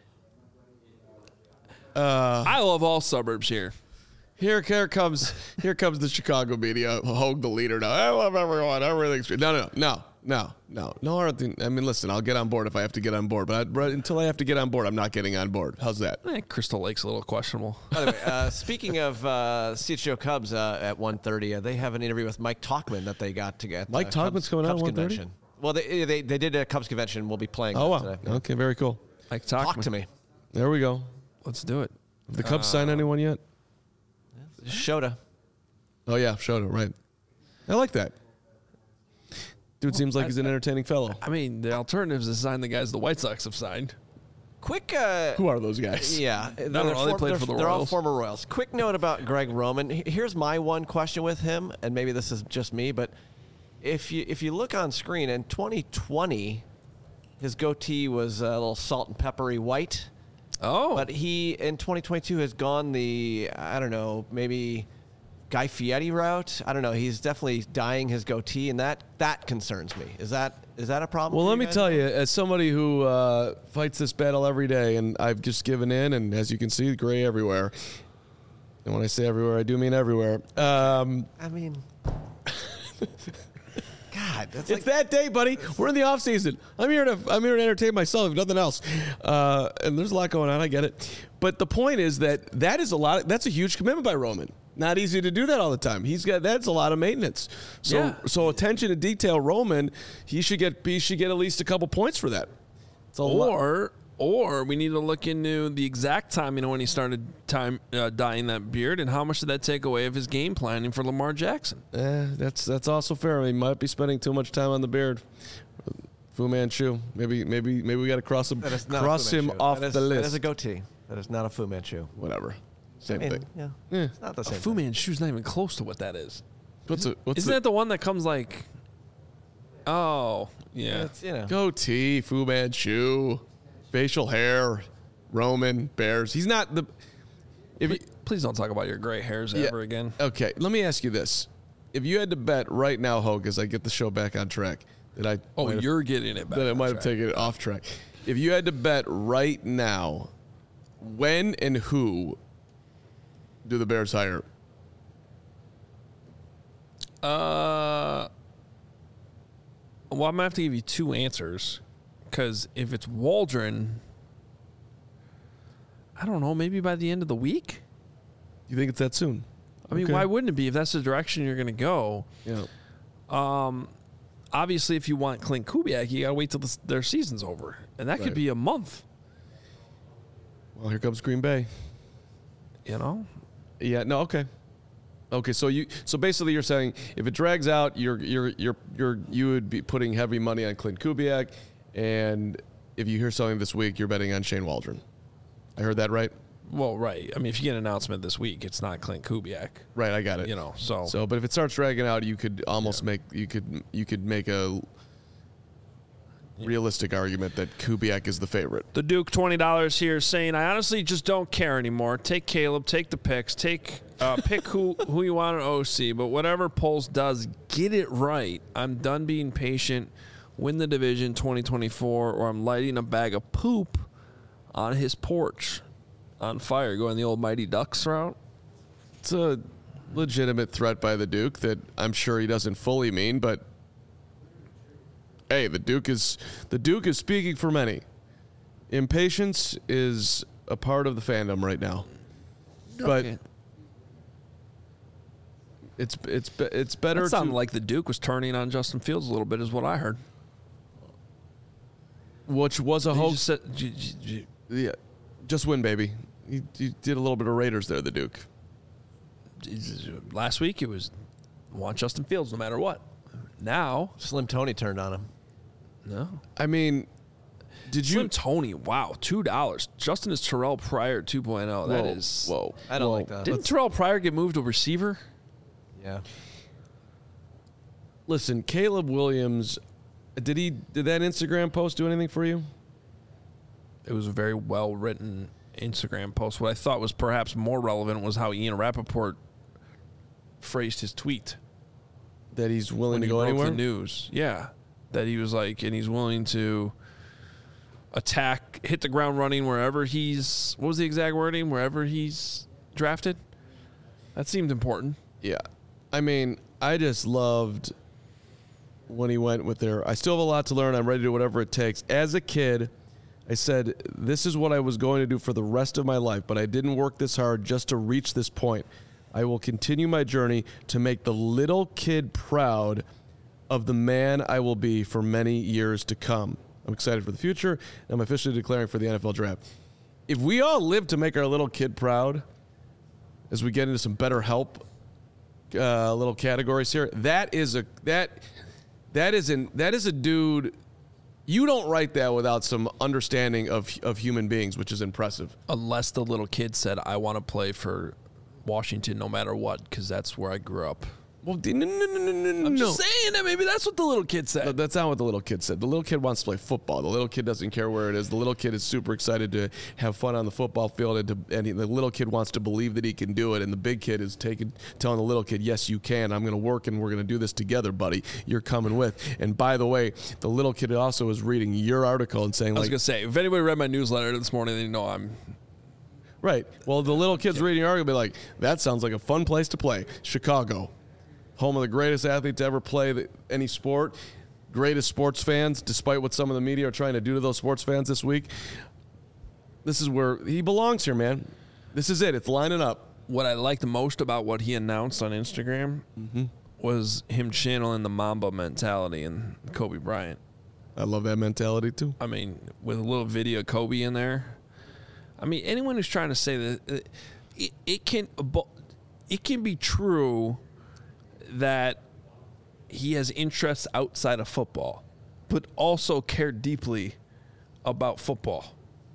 uh, I love all suburbs here. Here, here comes here comes the Chicago media. Hogue the leader now. I love everyone. Everything's great. No, no, no, no, no, no. I don't think- I mean, listen. I'll get on board if I have to get on board, but, I, but until I have to get on board, I'm not getting on board. How's that? Eh, Crystal Lake's a little questionable. By the way, uh, speaking of uh, C H G O Cubs uh, at one thirty, uh, they have an interview with Mike Talkman that they got to get. Mike uh, Talkman's Cubs, coming out at Cubs one thirty? convention. Well, they, they they did a Cubs convention. We'll be playing. Oh, that wow. today. Okay, very cool. Like talk, Talk to me. There we go. Let's do it. Have the Cubs sign anyone yet? Shota. Oh yeah, Shota, right. I like that. Dude seems like he's an entertaining fellow. I mean, the alternatives is sign the guys the White Sox have signed. Quick. Uh, Who are those guys? Yeah, they're, know. They form- played they're- for the they're all Royals. former Royals. Quick note about Greg Roman. H- Here's my one question with him, and maybe this is just me, but if you if you look on screen in twenty twenty, his goatee was a little salt and peppery white, Oh, but he in twenty twenty-two has gone the I don't know maybe Guy Fieri route. I don't know. He's definitely dyeing his goatee, and that that concerns me. Is that is that a problem? Well, for let you me guys? tell you, as somebody who uh, fights this battle every day, and I've just given in, and as you can see, gray everywhere. And when I say everywhere, I do mean everywhere. Um, I mean, God, that's it's like that day, buddy. We're in the off season. I'm here to I'm here to entertain myself, if nothing else. Uh, and there's a lot going on. I get it. But the point is that that is a lot. That's a huge commitment by Roman. Not easy to do that all the time. He's got that's a lot of maintenance. So Yeah. so attention to detail, Roman. He should get he should get at least a couple points for that. It's a lot. or or we need to look into the exact time, you know, when he started time uh, dyeing that beard, and how much did that take away of his game planning for Lamar Jackson? Eh, that's that's also fair. He might be spending too much time on the beard. Fu Manchu. Maybe maybe maybe we got to cross him That is not a cross Fu him Manchu. off That is- the list. That is a goatee. That is not a Fu Manchu. Whatever. Same I mean, thing. yeah, Yeah. it's not the A same. Fu thing. Manchu's not even close to what that is. What's it? What's Isn't the that the one that comes like? Oh, yeah. It's, you know, goatee? Fu Manchu, facial hair, Roman Bears. He's not the. If you, Please don't talk about your gray hairs Yeah. ever again. Okay, let me ask you this: if you had to bet right now, Hogue, as I get the show back on track, that I Oh, might have- you're getting it back. that I on might have track. taken it off track. If you had to bet right now, when and who do the Bears hire? Uh, well, I'm gonna have to give you two answers, because if it's Waldron, I don't know, maybe by the end of the week. You think it's that soon? I mean, Okay. why wouldn't it be if that's the direction you're gonna go? Yeah. Obviously, if you want Clint Kubiak, you gotta wait till the, their season's over, and that could Right. be a month. Well, here comes Green Bay. You know, Yeah. No. Okay. Okay. So you. So basically, you're saying if it drags out, you're you're you're you're you would be putting heavy money on Clint Kubiak, and if you hear something this week, you're betting on Shane Waldron. I heard that right. well, right. I mean, if you get an announcement this week, it's not Clint Kubiak. Right. I got it. You know, so So, but if it starts dragging out, you could almost make you could you could make a realistic argument that Kubiak is the favorite. The Duke twenty dollars here saying, I honestly just don't care anymore. Take Caleb, take the picks, take uh, pick who who you want at O C, but whatever Poles does, get it right. I'm done being patient. Win the division twenty twenty-four, or I'm lighting a bag of poop on his porch on fire, going the old Mighty Ducks route. It's a legitimate threat by the Duke that I'm sure he doesn't fully mean, but hey, the Duke is the Duke is speaking for many. Impatience is a part of the fandom right now, but Okay. it's it's be- it's better That to sounded like the Duke was turning on Justin Fields a little bit, is what I heard. which was a He hoax. just said, j- j- j- Yeah, just win, baby. You, you did a little bit of Raiders there, the Duke. last week it was want Justin Fields no matter what. Now, Slim Tony turned on him. no. I mean, did you? Slim Tony, wow, two dollars. Justin is Terrell Pryor two point oh. That Whoa, is. whoa. I don't whoa. like that. Didn't Terrell Pryor get moved to receiver? Yeah. Listen, Caleb Williams. Did he? Did that Instagram post do anything for you? It was a very well written Instagram post. What I thought was perhaps more relevant was how Ian Rappaport phrased his tweet That he's willing when to he go broke anywhere? the news. Yeah, that he was like, and he's willing to attack, hit the ground running wherever he's. What was the exact wording? Wherever he's drafted. That seemed important. Yeah. I mean, I just loved when he went with their, I still have a lot to learn. I'm ready to do whatever it takes. As a kid, I said, this is what I was going to do for the rest of my life, but I didn't work this hard just to reach this point. I will continue my journey to make the little kid proud of the man I will be for many years to come. I'm excited for the future, and I'm officially declaring for the N F L draft. If we all live to make our little kid proud as we get into some better help uh, little categories here, that is a that that is an that is a dude. You don't write that without some understanding of of human beings, which is impressive. Unless the little kid said, I want to play for Washington no matter what, because that's where I grew up. Well, no, no, no, no, no, I'm no. just saying that maybe that's what the little kid said. No, that's not what the little kid said. The little kid wants to play football. The little kid doesn't care where it is. The little kid is super excited to have fun on the football field, and, to, and he, the little kid wants to believe that he can do it. And the big kid is taking, telling the little kid, "Yes, you can. I'm going to work, and we're going to do this together, buddy. You're coming with." And by the way, the little kid also is reading your article and saying, I was like, going to say, if anybody read my newsletter this morning, they know I'm. right. Well, the little kid's reading your article, be like, "That sounds like a fun place to play. Chicago, home of the greatest athlete to ever play the, any sport, greatest sports fans, despite what some of the media are trying to do to those sports fans this week. This is where he belongs here, man. This is it. It's lining up." What I liked most about what he announced on Instagram was him channeling the Mamba mentality and Kobe Bryant. I love that mentality, too. I mean, with a little video of Kobe in there. I mean, anyone who's trying to say that uh, it, it can it can be true that he has interests outside of football, but also care deeply about football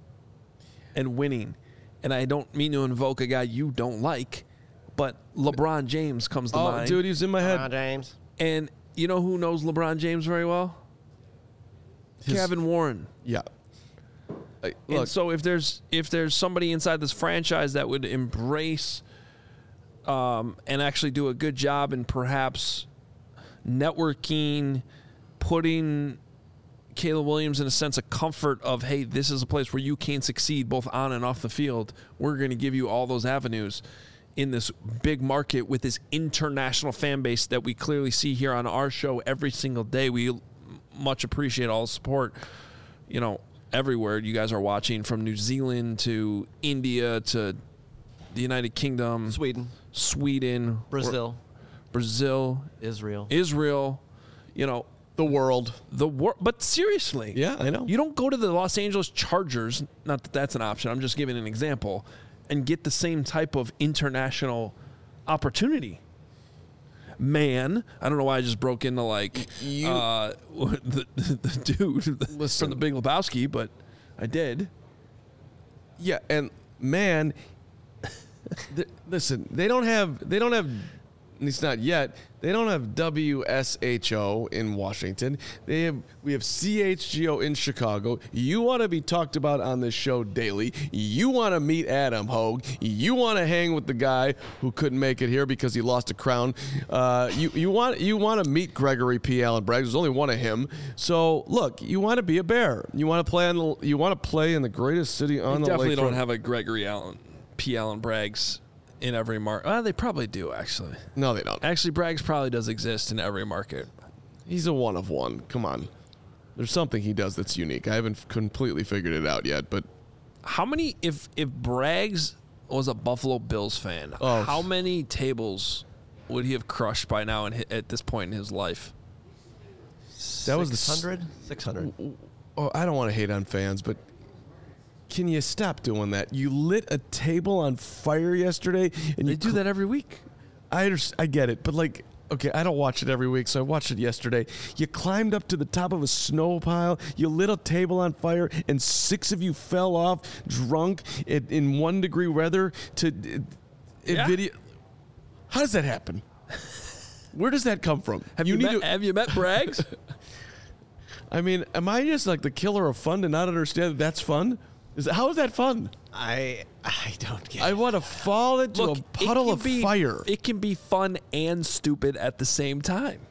and winning. And I don't mean to invoke a guy you don't like, but LeBron James comes to Oh, mind. dude, he's in my head. James. And you know who knows LeBron James very well? His- Kevin Warren. Yeah. I, And look, so if there's if there's somebody inside this franchise that would embrace um, and actually do a good job in perhaps networking, putting Caleb Williams in a sense of comfort of, hey, this is a place where you can succeed both on and off the field. We're going to give you all those avenues in this big market with this international fan base that we clearly see here on our show every single day. We much appreciate all the support, you know, everywhere you guys are watching, from New Zealand to India to the United Kingdom, Sweden, Sweden, Brazil, Brazil, Israel. Israel, you know, the world. the war. But seriously, Yeah, I know. you don't go to the Los Angeles Chargers, not that that's an option, I'm just giving an example, and get the same type of international opportunity. Man, I don't know why I just broke into like You- uh, the, the dude Listen. from the Big Lebowski, but I did. Yeah, and man, th- listen, they don't have they don't have at least not yet. They don't have W S H O in Washington. They have we have C H G O in Chicago. You want to be talked about on this show daily. You want to meet Adam Hogue. You want to hang with the guy who couldn't make it here because he lost a crown. Uh, you you want you want to meet Gregory P. Allen Braggs. There's only one of him. So look, you want to be a Bear. You want to play on the you want to play in the greatest city on They the definitely lakefront. don't have a Gregory Allen, P. Allen Braggs in every market. Uh, they probably do, actually. No, they don't. Actually, Braggs probably does exist in every market. He's a one of one. Come on. There's something he does that's unique. I haven't completely figured it out yet, but How many, if if Braggs was a Buffalo Bills fan, Oh. how many tables would he have crushed by now in, hi- at this point in his life? that was the s- six hundred? six hundred. oh, I don't want to hate on fans, but can you stop doing that? You lit a table on fire yesterday, and They you do cl- that every week. I underst- I get it, but like, okay, I don't watch it every week, so I watched it yesterday. You climbed up to the top of a snow pile, you lit a table on fire, and six of you fell off drunk in, in one degree weather to uh, Yeah. video. How does that happen? Where does that come from? Have you, need met, to- have you met Braggs? I mean, am I just like the killer of fun to not understand that that's fun? Is how is that fun? I I don't get I it. want to fall into Look, a it puddle can of be- fire. It can be fun and stupid at the same time.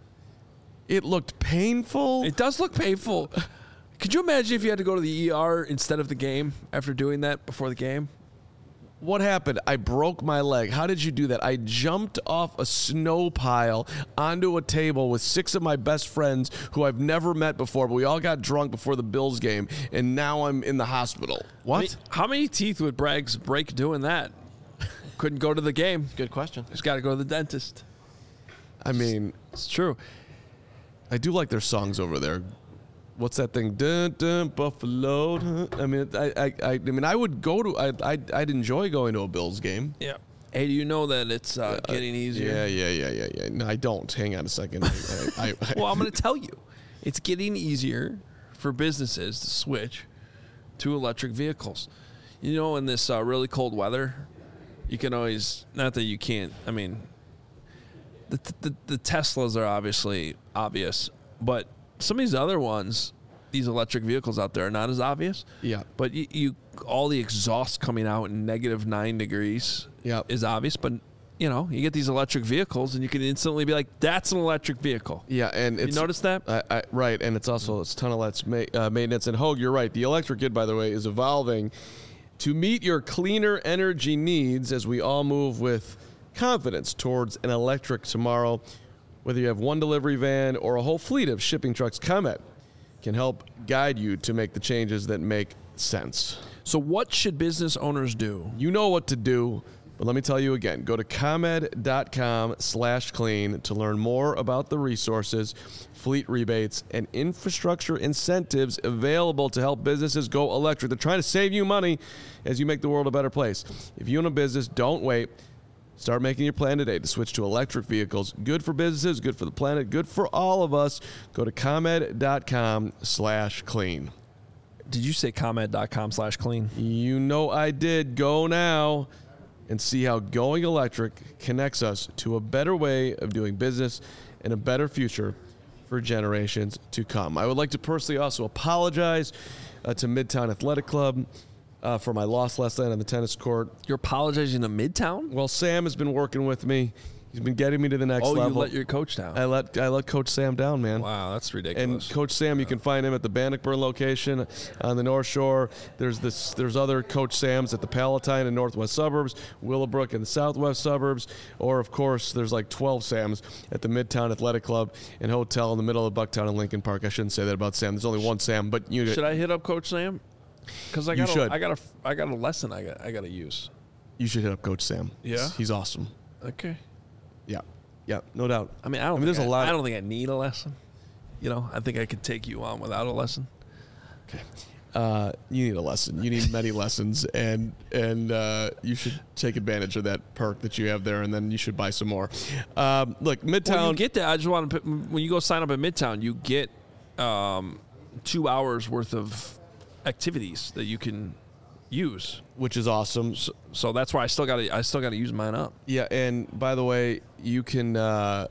It looked painful. It does look painful. Could you imagine if you had to go to the E R instead of the game after doing that before the game? What happened? I broke my leg. How did you do that? I jumped off a snow pile onto a table with six of my best friends who I've never met before, but we all got drunk before the Bills game, and now I'm in the hospital. What? I mean, how many teeth would Braggs break doing that? Couldn't go to the game. Good question. He's got to go to the dentist. I mean, It's true. I do like their songs over there. What's that thing? Dun, dun, Buffalo. Dun. I mean, I, I, I, I mean, I would go to. I, I, I'd enjoy going to a Bills game. Yeah. Hey, do you know that it's uh, getting easier? Yeah, yeah, yeah, yeah, yeah. No, I don't. Hang on a second. I, I, I, Well, I'm going to tell you. It's getting easier for businesses to switch to electric vehicles. You know, in this uh, really cold weather, you can always, not that you can't, I mean, the, the, the Teslas are obviously obvious, but some of these other ones, these electric vehicles out there are not as obvious. Yeah. But you, you all the exhaust coming out in negative nine degrees Yeah. is obvious, but you know, you get these electric vehicles and you can instantly be like, that's an electric vehicle. Yeah, and it's, notice that? I, I, right, and it's also it's ton of less ma- uh, maintenance. And Hogue, you're right. The electric kit, by the way, is evolving to meet your cleaner energy needs as we all move with confidence towards an electric tomorrow. Whether you have one delivery van or a whole fleet of shipping trucks, ComEd can help guide you to make the changes that make sense. So what should business owners do? You know what to do, but let me tell you again. Go to ComEd.com slash clean to learn more about the resources, fleet rebates, and infrastructure incentives available to help businesses go electric. They're trying to save you money as you make the world a better place. If you own a business, don't wait. Start making your plan today to switch to electric vehicles. Good for businesses, good for the planet, good for all of us. Go to ComEd.com slash clean. Did you say ComEd.com slash clean? You know I did. Go now and see how going electric connects us to a better way of doing business and a better future for generations to come. I would like to personally also apologize uh, to Midtown Athletic Club uh, for my loss last night on the tennis court. You're apologizing to Midtown? Well, Sam has been working with me. He's been getting me to the next oh, level. you let your coach down. I let I let Coach Sam down, man. Wow, that's And ridiculous. Coach Sam, you can find him at the Bannockburn location on the North Shore. There's this. There's other Coach Sams at the Palatine and Northwest suburbs, Willowbrook in the Southwest suburbs, or of course, there's like twelve Sams at the Midtown Athletic Club and Hotel in the middle of Bucktown and Lincoln Park. I shouldn't say that about Sam. There's only one Sam, but you Should I hit up Coach Sam? Because I You got should. I got a I got a lesson I got I got to use. you should hit up Coach Sam. Yeah? he's, he's awesome. Okay. Yeah, yeah, no doubt. I mean, I don't. I mean, think there's I, a lot. I don't think I need a lesson. You know, I think I could take you on without a lesson. Okay. Uh, you need a lesson. You need many lessons, and and uh, you should take advantage of that perk that you have there, and then you should buy some more. Um, look, Midtown. When you get there, I just want to put, when you go sign up at Midtown, you get um, two hours worth of activities that you can use. which is awesome. So, so that's why I still got to I still got to use mine up. Yeah, and by the way, you can uh,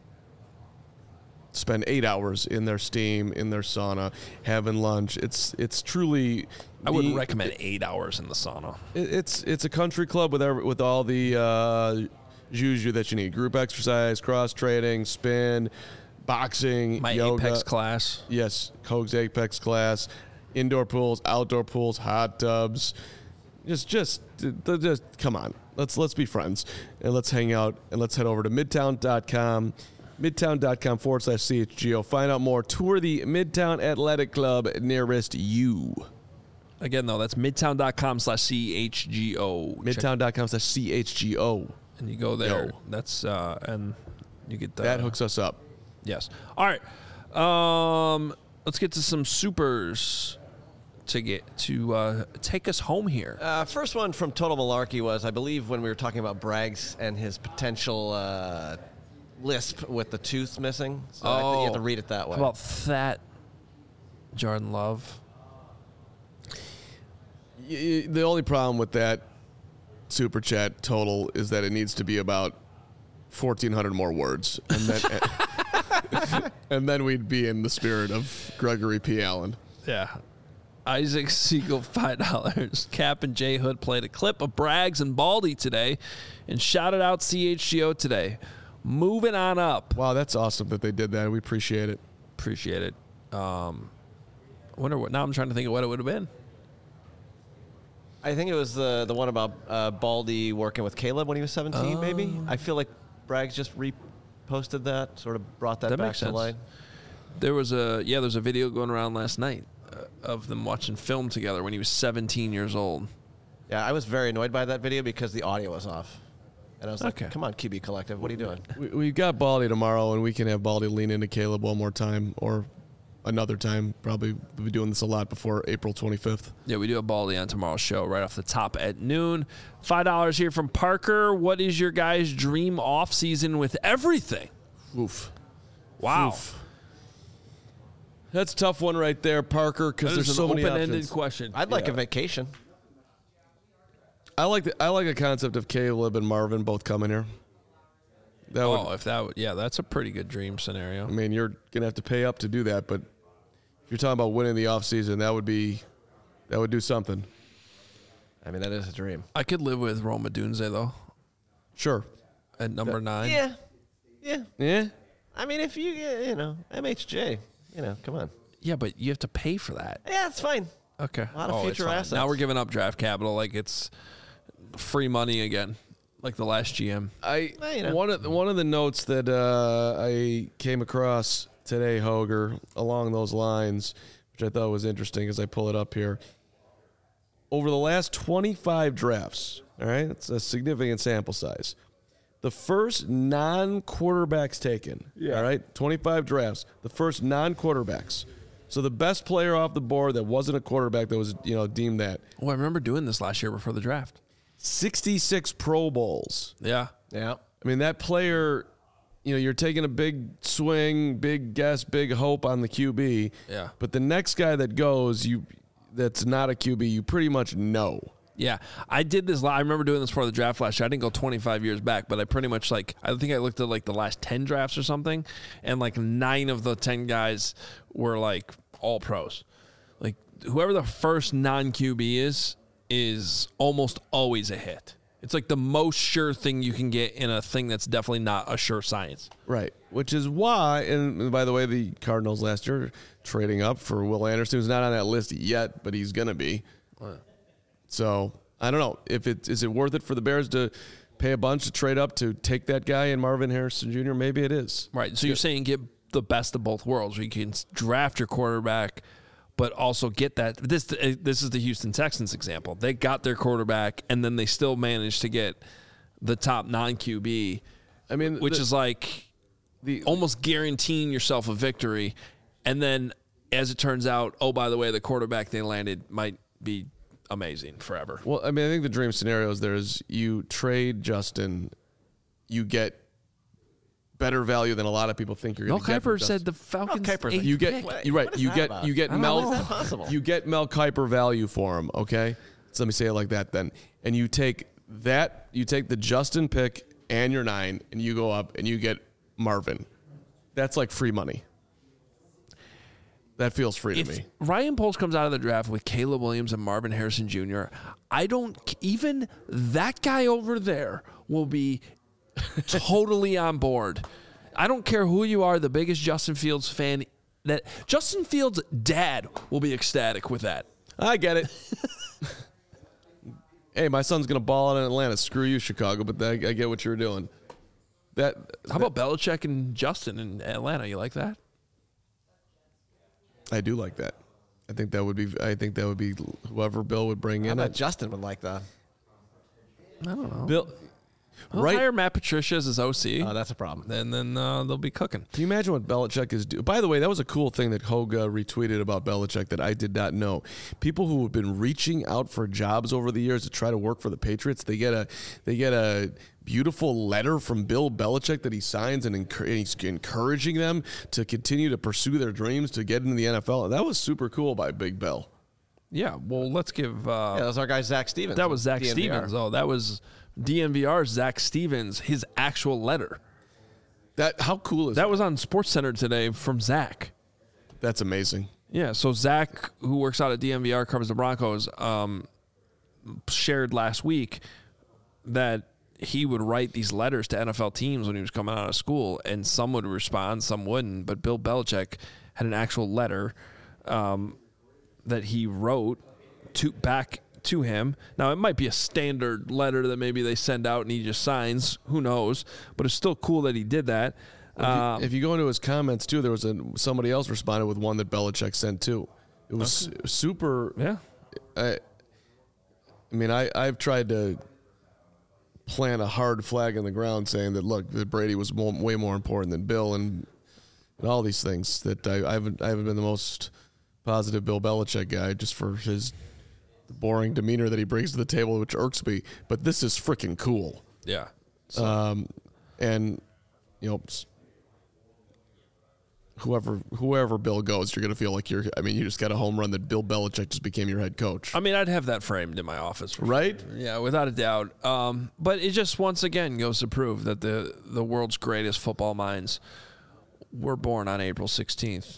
spend eight hours in their steam, in their sauna, having lunch. It's it's truly. I wouldn't the- recommend eight hours in the sauna. It, it's it's a country club with every, with all the uh, juju that you need: group exercise, cross training, spin, boxing, My yoga. Apex class. Yes, Coke's Apex class, indoor pools, outdoor pools, hot tubs. Just, just, just come on. Let's let's be friends and let's hang out and let's head over to midtown dot com, midtown dot com forward slash C H G O. Find out more. Tour the Midtown Athletic Club nearest you. Again, though, that's midtown dot com slash C H G O. midtown dot com slash C H G O. And you go there. Yo. That's, uh, and you get the. That hooks us up. Yes. All right. Um, let's get to some supers to get to uh, take us home here. Uh, first one from Total Malarkey was, I believe, when we were talking about Braggs and his potential uh, lisp with the tooth missing. So I think you have to read it that way. How about that, Jordan Love? Y- y- The only problem with that super chat total is that it needs to be about fourteen hundred more words, and then and then we'd be in the spirit of Gregory P. Allen. Yeah. Isaac Siegel, five dollars. Cap and Jay Hood played a clip of Braggs and Baldy today and shouted out C H G O today. Moving on up. Wow, that's awesome that they did that. We appreciate it. Appreciate it. Um, I wonder what, now I'm trying to think of what it would have been. I think it was the the one about uh, Baldy working with Caleb when he was seventeen, maybe. I feel like Braggs just reposted that, sort of brought that, That back makes to sense. light. There was a, yeah, there's a video going around last night uh, of them watching film together when he was seventeen years old. Yeah, I was very annoyed by that video because the audio was off. And I was like, Okay. come on, Q B Collective, what are you doing? We, we've got Baldy tomorrow, and we can have Baldy lean into Caleb one more time or another time. Probably we'll be doing this a lot before April twenty-fifth. Yeah, we do a Baldy on tomorrow's show right off the top at noon. five dollars here from Parker. What is your guys' dream off season with everything? Oof. Wow. Oof. That's a tough one right there, Parker, because That there's is so an many open-ended options. question. I'd like Yeah. a vacation. I like the I like a concept of Caleb and Marvin both coming here. That would, Oh, if that would, yeah, that's a pretty good dream scenario. I mean, you're gonna have to pay up to do that, but if you're talking about winning the offseason, that would be that would do something. I mean, that is a dream. I could live with Roma Dunze, though, Sure. at number nine. Yeah. Yeah. Yeah. I mean, if you, uh, you know, M H J, you know, come on. Yeah, but you have to pay for that. Yeah, it's fine. Okay. A lot of Oh, it's future fine. assets. Now we're giving up draft capital like it's free money again, like the last G M. I Well, you know. one of the, one of the notes that uh, I came across today, Hoger, along those lines, which I thought was interesting as I pull it up here. Over the last twenty-five drafts, all right, it's a significant sample size. The first non-quarterbacks taken, all right, twenty-five drafts, the first non-quarterbacks. So the best player off the board that wasn't a quarterback that was, you know, deemed that. Oh, I remember doing this last year before the draft. sixty-six Pro Bowls. Yeah. Yeah. I mean, that player, you know, you're taking a big swing, big guess, big hope on the Q B. Yeah. But the next guy that goes, you that's not a Q B, you pretty much know. Yeah, I did this. I remember doing this for the draft last year. I didn't go twenty-five years back, but I pretty much like I think I looked at like the last ten drafts or something, and like nine of the ten guys were like all pros. Like whoever the first non-Q B is is almost always a hit. It's like the most sure thing you can get in a thing that's definitely not a sure science. Right, which is why, and by the way, the Cardinals last year trading up for Will Anderson, who's not on that list yet, but he's going to be. What? So I don't know if it is it worth it for the Bears to pay a bunch to trade up to take that guy and Marvin Harrison Junior Maybe it is. Right. So you're saying get the best of both worlds, where you can draft your quarterback, but also get that. This this is the Houston Texans example. They got their quarterback, and then they still managed to get the top non-Q B. I mean, which the, is like the almost guaranteeing yourself a victory. And then, as it turns out, oh, by the way, the quarterback they landed might be amazing forever. Well, I mean, I think the dream scenario is there is you trade Justin, you get better value than a lot of people think you're going Mel to get. Kiper said the Falcons. Mel Kiper's eighth You get pick. you're right. You get about? you get I don't Mel know. How is that possible? you get Mel Kiper value for him. Okay, so let me say it like that then. And you take that you take the Justin pick and your nine, and you go up and you get Marvin. That's like free money. That feels free If to me. Ryan Poles comes out of the draft with Caleb Williams and Marvin Harrison Junior, I don't even that guy over there will be totally on board. I don't care who you are, the biggest Justin Fields fan. That Justin Fields' dad will be ecstatic with that. I get it. Hey, my son's gonna ball out in Atlanta. Screw you, Chicago. But I, I get what you're doing. That How about Belichick and Justin in Atlanta? You like that? I do like that. I think that would be. I think that would be whoever Bill would bring I in. bet I- Justin would like that. I don't know. Bill, We'll right? hire Matt Patricia as his O C. Oh, that's a problem. and then uh, they'll be cooking. Can you imagine what Belichick is doing? By the way, that was a cool thing that Hogue uh, retweeted about Belichick that I did not know. People who have been reaching out for jobs over the years to try to work for the Patriots, they get a they get a beautiful letter from Bill Belichick that he signs and, enc- and he's encouraging them to continue to pursue their dreams to get into the N F L. That was super cool by Big Bill. Yeah, well, let's give. Uh, Yeah, that was our guy Zach Stevens. that was Zach D N V R. Stevens. Oh, that was D N V R's Zach Stevens. His actual letter. That how cool is that? That was on SportsCenter today from Zach. That's amazing. Yeah, so Zach, who works out at D N V R, covers the Broncos, um, shared last week that he would write these letters to N F L teams when he was coming out of school, and some would respond, some wouldn't. But Bill Belichick had an actual letter um, that he wrote to back to him. Now, it might be a standard letter that maybe they send out and he just signs. Who knows? But it's still cool that he did that. If you, Um, if you go into his comments too, there was a somebody else responded with one that Belichick sent too. It was super. yeah. I, I mean, I I've tried to plant a hard flag in the ground saying that look, that Brady was more, way more important than Bill and, and all these things. That I, I haven't I haven't been the most positive Bill Belichick guy just for his boring demeanor that he brings to the table, which irks me. But this is freaking cool. Yeah. Um, and you know, s- whoever whoever Bill goes, you're gonna feel like you're. I mean, you just got a home run that Bill Belichick just became your head coach, I mean, I'd have that framed in my office. for right? sure. Yeah, without a doubt. Um, but it just once again goes to prove that the, the world's greatest football minds were born on April sixteenth.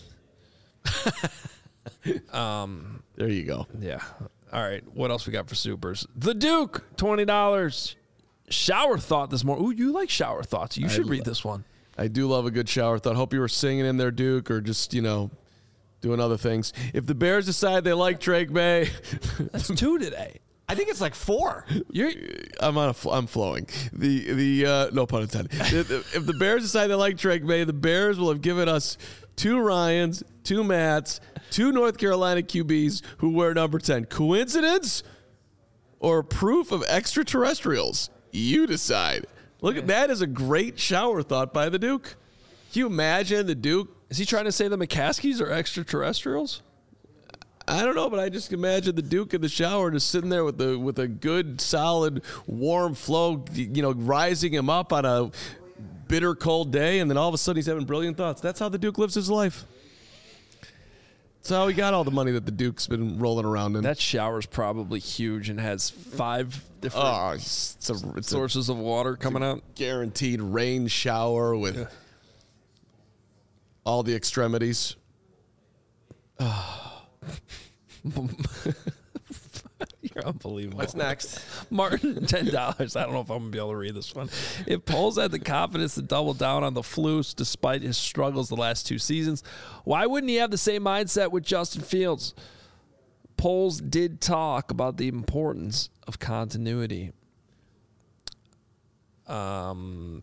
There you go. Yeah. All right. What else we got for supers? The Duke, twenty dollars. Shower thought this morning. Ooh, you like shower thoughts. You should lo- read this one. I do love a good shower thought. Hope you were singing in there, Duke, or just you know, doing other things. If the Bears decide they like Drake May, That's two today. I think it's like four. You're I'm on a fl- I'm flowing. The the uh, no pun intended. If the Bears decide they like Drake May, the Bears will have given us two Ryans, two Matts, two North Carolina Q Bs who wear number ten. Coincidence or proof of extraterrestrials? You decide. Look at that is a great shower thought by the Duke. Can you imagine the Duke? is he trying to say the McCaskies are extraterrestrials? I don't know, but I just imagine the Duke in the shower just sitting there with the with a good, solid, warm flow, you know, rising him up on a bitter cold day, and then all of a sudden he's having brilliant thoughts. That's how the Duke lives his life. That's how he got all the money that the Duke's been rolling around in. That shower's probably huge and has five different oh, it's, it's a, it's a sources of water coming out. guaranteed rain shower with all the extremities. You're unbelievable. What's next? Martin, ten dollars. I don't know if I'm going to be able to read this one. If Poles had the confidence to double down on the Flus despite his struggles the last two seasons, why wouldn't he have the same mindset with Justin Fields? Poles did talk about the importance of continuity. Um,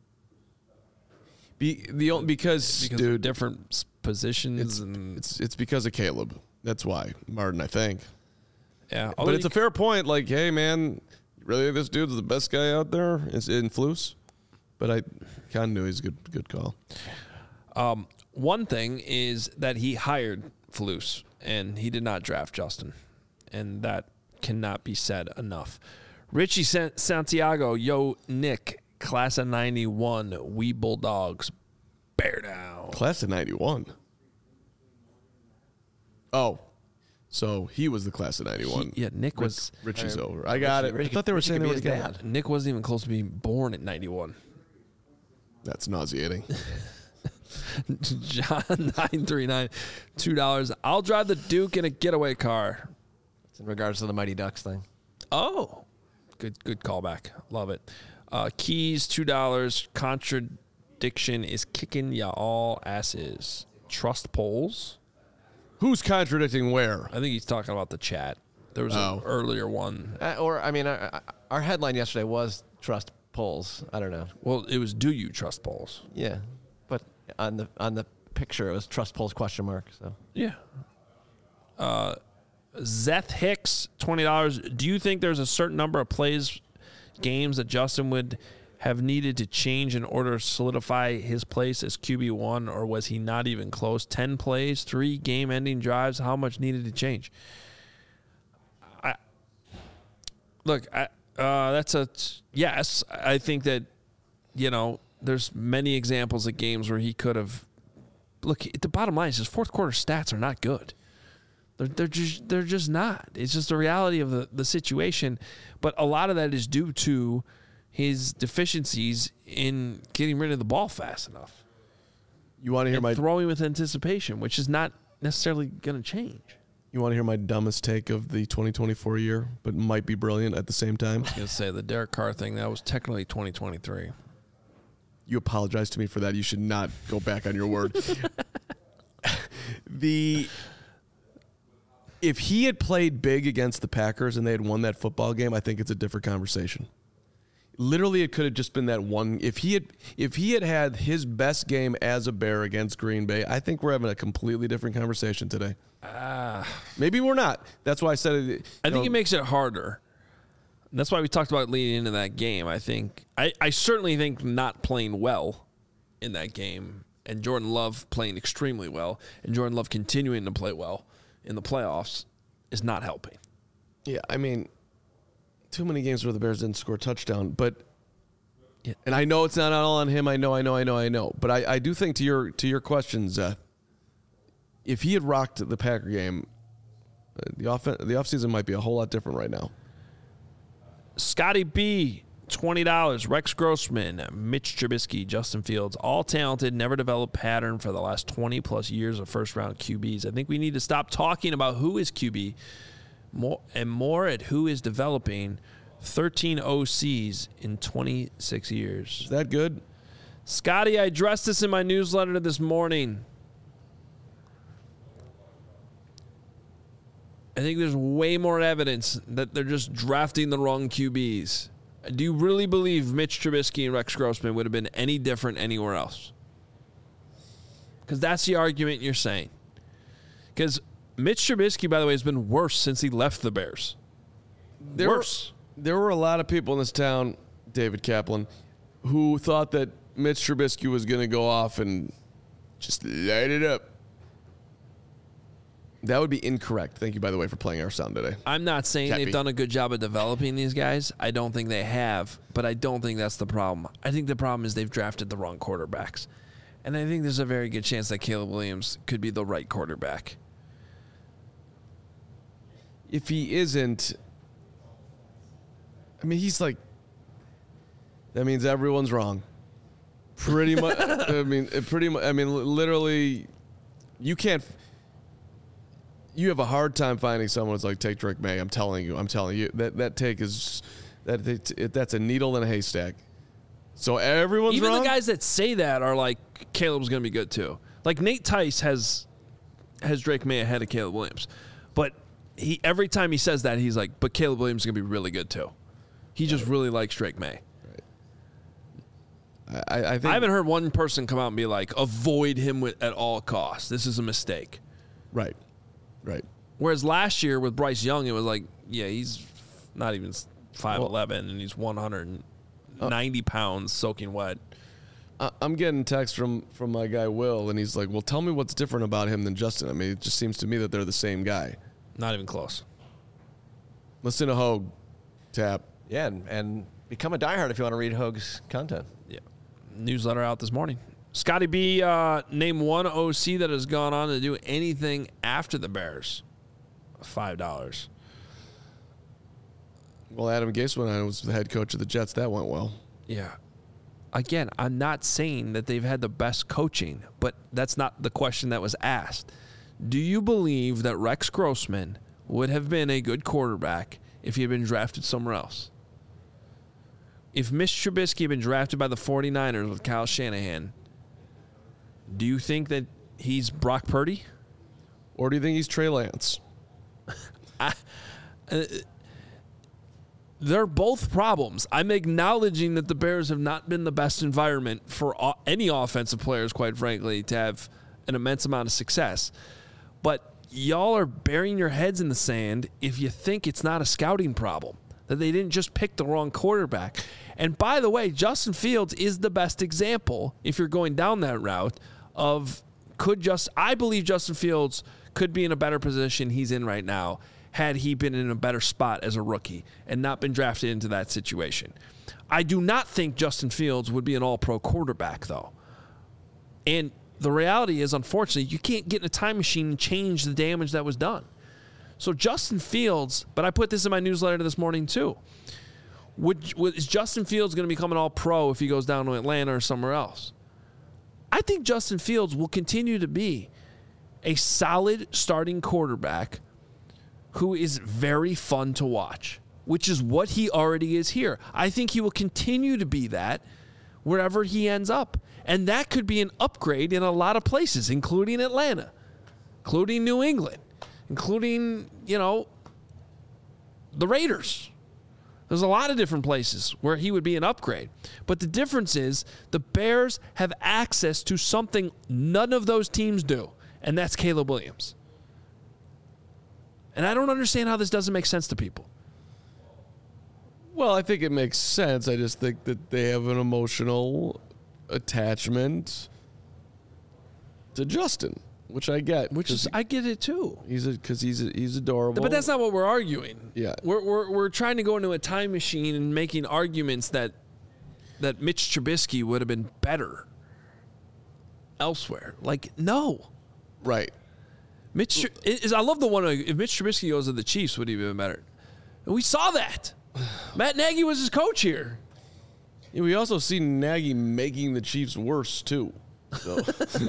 Be, the only, because, because dude, of different s- positions. it's, and it's it's because of Caleb. That's why, Martin, I think. yeah, But it's a fair point. Like, hey, man, really, this dude's the best guy out there is in Flus. But I kind of knew he's a good good call. Um, one thing is that he hired Flus, and he did not draft Justin, and that cannot be said enough. Richie San- Santiago, yo, Nick, class of ninety-one, we Bulldogs, bear down. Class of ninety-one. Oh, so he was the class of ninety-one. He- yeah, Nick was. Richie's over. I got Richie- it. I thought they were Richie saying could they be were his together. dad. Nick wasn't even close to being born at ninety-one. That's nauseating. John nine three nine, two dollars. I'll drive the Duke in a getaway car. It's in regards to the Mighty Ducks thing. Oh, good good callback. Love it. Uh, Keys, two dollars. Contradiction is kicking ya all asses. Trust polls. Who's contradicting where? I think he's talking about the chat. There was Oh. an earlier one. Uh, or, I mean, our, our headline yesterday was trust polls. I don't know. Well, it was do you trust polls? Yeah. But on the on the picture, it was trust polls question mark. So Yeah. Uh, Zeth Hicks, twenty dollars. Do you think there's a certain number of plays, games that Justin would have needed to change in order to solidify his place as Q B one, or was he not even close? ten plays, three game-ending drives. How much needed to change? I Look, I, uh, that's a yes. I think that, you know, there's many examples of games where he could have. Look, the bottom line is his fourth quarter stats are not good. They're, they're just they're just not. It's just the reality of the, the situation. But a lot of that is due to his deficiencies in getting rid of the ball fast enough. You want to hear And my throwing with anticipation, which is not necessarily going to change. You want to hear my dumbest take of the twenty twenty-four year, but might be brilliant at the same time? I was going to say the Derek Carr thing, that was technically twenty twenty-three. You apologize to me for that. You should not go back on your word. the If he had played big against the Packers and they had won that football game, I think it's a different conversation. Literally, it could have just been that one. If he had, if he had had his best game as a Bear against Green Bay, I think we're having a completely different conversation today. Uh, Maybe we're not. That's why I said it. I think know, it makes it harder. That's why we talked about leading into that game. I think I, I certainly think not playing well in that game and Jordan Love playing extremely well and Jordan Love continuing to play well in the playoffs is not helping. Yeah, I mean, too many games where the Bears didn't score a touchdown, but Yeah. and I know it's not all on him. I know, I know, I know, I know. But I, I do think to your to your question, Zeth, if he had rocked the Packer game, uh, the off the offseason might be a whole lot different right now. Scotty B, twenty dollars. Rex Grossman, Mitch Trubisky, Justin Fields, all talented, never developed pattern for the last twenty plus years of first round Q Bs. I think we need to stop talking about who is Q B more and more at who is developing. thirteen O Cs in twenty-six years. Is that good? Scotty, I addressed this in my newsletter this morning. I think there's way more evidence that they're just drafting the wrong Q Bs. Do you really believe Mitch Trubisky and Rex Grossman would have been any different anywhere else? Because that's the argument you're saying. Because Mitch Trubisky, by the way, has been worse since he left the Bears. There worse. Were, there were a lot of people in this town, David Kaplan, who thought that Mitch Trubisky was going to go off and just light it up. That would be incorrect. Thank you, by the way, for playing our sound today. I'm not saying Can't they've be. done a good job of developing these guys. I don't think they have, but I don't think that's the problem. I think the problem is they've drafted the wrong quarterbacks. And I think there's a very good chance that Caleb Williams could be the right quarterback. If he isn't, I mean, he's like, that means everyone's wrong. Pretty much. I mean, it pretty much. I mean, li- literally, you can't. you have a hard time finding someone who's like, take Drake May. I'm telling you. I'm telling you. That that take is that it, it, that's a needle in a haystack. So everyone's Even wrong? the guys that say that are like, Caleb's going to be good too. Like Nate Tice has has Drake May ahead of Caleb Williams. But he every time he says that, he's like, but Caleb Williams is going to be really good too. He just really likes Drake May. I, I, think, I haven't heard one person come out and be like, avoid him with, at all costs. This is a mistake. Right. Right. Whereas last year with Bryce Young, it was like, yeah, he's not even five eleven, and he's one hundred ninety uh, pounds soaking wet. I'm getting text from, from my guy Will, and he's like, well, tell me what's different about him than Justin. I mean, it just seems to me that they're the same guy. Not even close. Listen to Hogue, Tap. Yeah, and, and become a diehard if you want to read Hogue's content. Yeah. Newsletter out this morning. Scotty B, uh, name one O C that has gone on to do anything after the Bears. Five dollars. Well, Adam Gase went on and was the head coach of the Jets. That went well. Yeah. Again, I'm not saying that they've had the best coaching, but that's not the question that was asked. Do you believe that Rex Grossman would have been a good quarterback if he had been drafted somewhere else? If Mitch Trubisky had been drafted by the 49ers with Kyle Shanahan, do you think that he's Brock Purdy? Or do you think he's Trey Lance? I, uh, they're both problems. I'm acknowledging that the Bears have not been the best environment for o- any offensive players, quite frankly, to have an immense amount of success. But y'all are burying your heads in the sand if you think it's not a scouting problem, that they didn't just pick the wrong quarterback. And by the way, Justin Fields is the best example, if you're going down that route, of could just, I believe Justin Fields could be in a better position he's in right now had he been in a better spot as a rookie and not been drafted into that situation. I do not think Justin Fields would be an all-pro quarterback, though. And the reality is, unfortunately, you can't get in a time machine and change the damage that was done. So Justin Fields, but I put this in my newsletter this morning too, would, would, is Justin Fields going to become an all-pro if he goes down to Atlanta or somewhere else? I think Justin Fields will continue to be a solid starting quarterback who is very fun to watch, which is what he already is here. I think he will continue to be that wherever he ends up. And that could be an upgrade in a lot of places, including Atlanta, including New England, including, you know, the Raiders. There's a lot of different places where he would be an upgrade. But the difference is the Bears have access to something none of those teams do, and that's Caleb Williams. And I don't understand how this doesn't make sense to people. Well, I think it makes sense. I just think that they have an emotional attachment to Justin, which I get. Which is, I get it too. He's because he's he's adorable. But that's not what we're arguing. Yeah, we're we're we're trying to go into a time machine and making arguments that that Mitch Trubisky would have been better elsewhere. Like, no, right. Mitch is. I love the one. If Mitch Trubisky goes to the Chiefs, would he be better? And we saw that. Matt Nagy was his coach here. Yeah, we also see Nagy making the Chiefs worse too. So.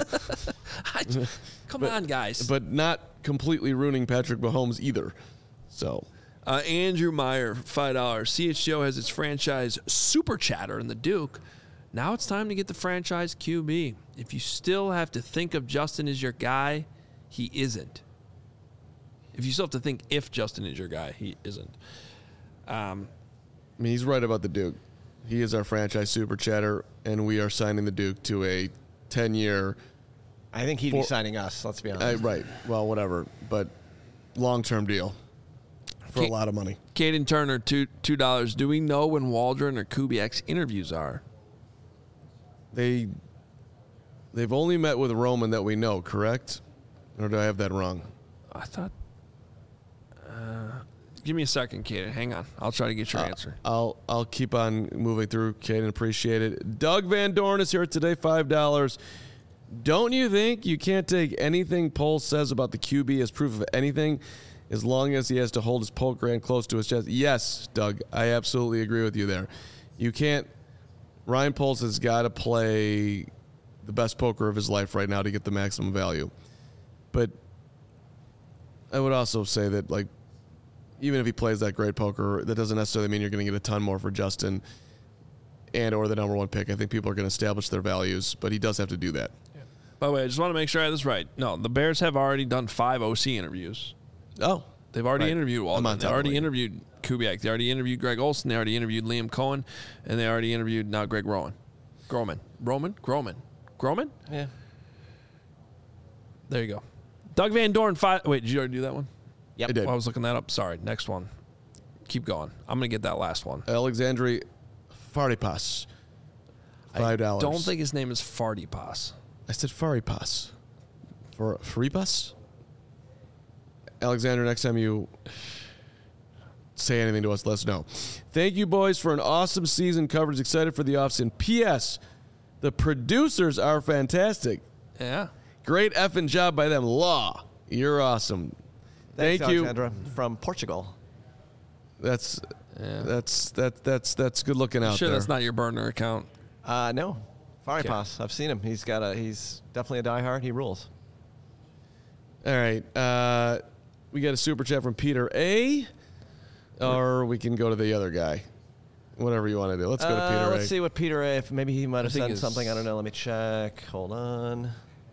I, come but, on, guys. But not completely ruining Patrick Mahomes either. So, uh, Andrew Meyer, five dollars. C H G O has its franchise super chatter in the Duke. Now it's time to get the franchise Q B. If you still have to think of Justin as your guy, he isn't. If you still have to think if Justin is your guy, he isn't. Um, I mean, he's right about the Duke. He is our franchise super chatter, and we are signing the Duke to a ten-year. I think he'd for, be signing us, let's be honest. Uh, right. Well, whatever. But long-term deal for K- a lot of money. Caden Turner, two, two dollars. Do we know when Waldron or Kubiak's interviews are? They, they've only met with Roman that we know, correct? Or do I have that wrong? I thought... Uh, give me a second, Caden. Hang on. I'll try to get your uh, answer. I'll I'll keep on moving through, Caden. Appreciate it. Doug Van Dorn is here today, five dollars. Don't you think you can't take anything Poles says about the Q B as proof of anything as long as he has to hold his poke grand close to his chest? Yes, Doug, I absolutely agree with you there. You can't – Ryan Poles has got to play the best poker of his life right now to get the maximum value. But I would also say that, like, even if he plays that great poker, that doesn't necessarily mean you're going to get a ton more for Justin and or the number one pick. I think people are going to establish their values, but he does have to do that. Yeah. By the way, I just want to make sure I have this right. No, the Bears have already done five O C interviews. Oh. They've already Right. interviewed Waldman. They already interviewed Kubiak. They already interviewed Greg Olson. They already interviewed Liam Cohen. And they already interviewed now Greg Rowan. Groman. Roman? Groman. Groman? Yeah. There you go. Doug Van Dorn. Five. Wait, did you already do that one? Yep. I did. Well, I was looking that up. Sorry. Next one. Keep going. I'm going to get that last one. Alexandri Faripas. Five dollars. I don't think his name is Fardipas. I said Faripas. For Faripas? Alexander, next time you say anything to us, let us know. Thank you, boys, for an awesome season coverage. Excited for the offseason. P S. The producers are fantastic. Yeah. Great effing job by them. Law, you're awesome. Thanks, Thank you. Alexandra from Portugal. That's Yeah. that's that that's that's good looking out Sure, there. that's not your burner account. Uh, no, Faripas. I've seen him. He's got a. He's definitely a diehard. He rules. All right. Uh, we got a super chat from Peter A. Or we can go to the other guy. Whatever you want to do. Let's go to Uh, Peter let's A. see what Peter A. If maybe he might have think sent it's- something. I don't know. Let me check. Hold on.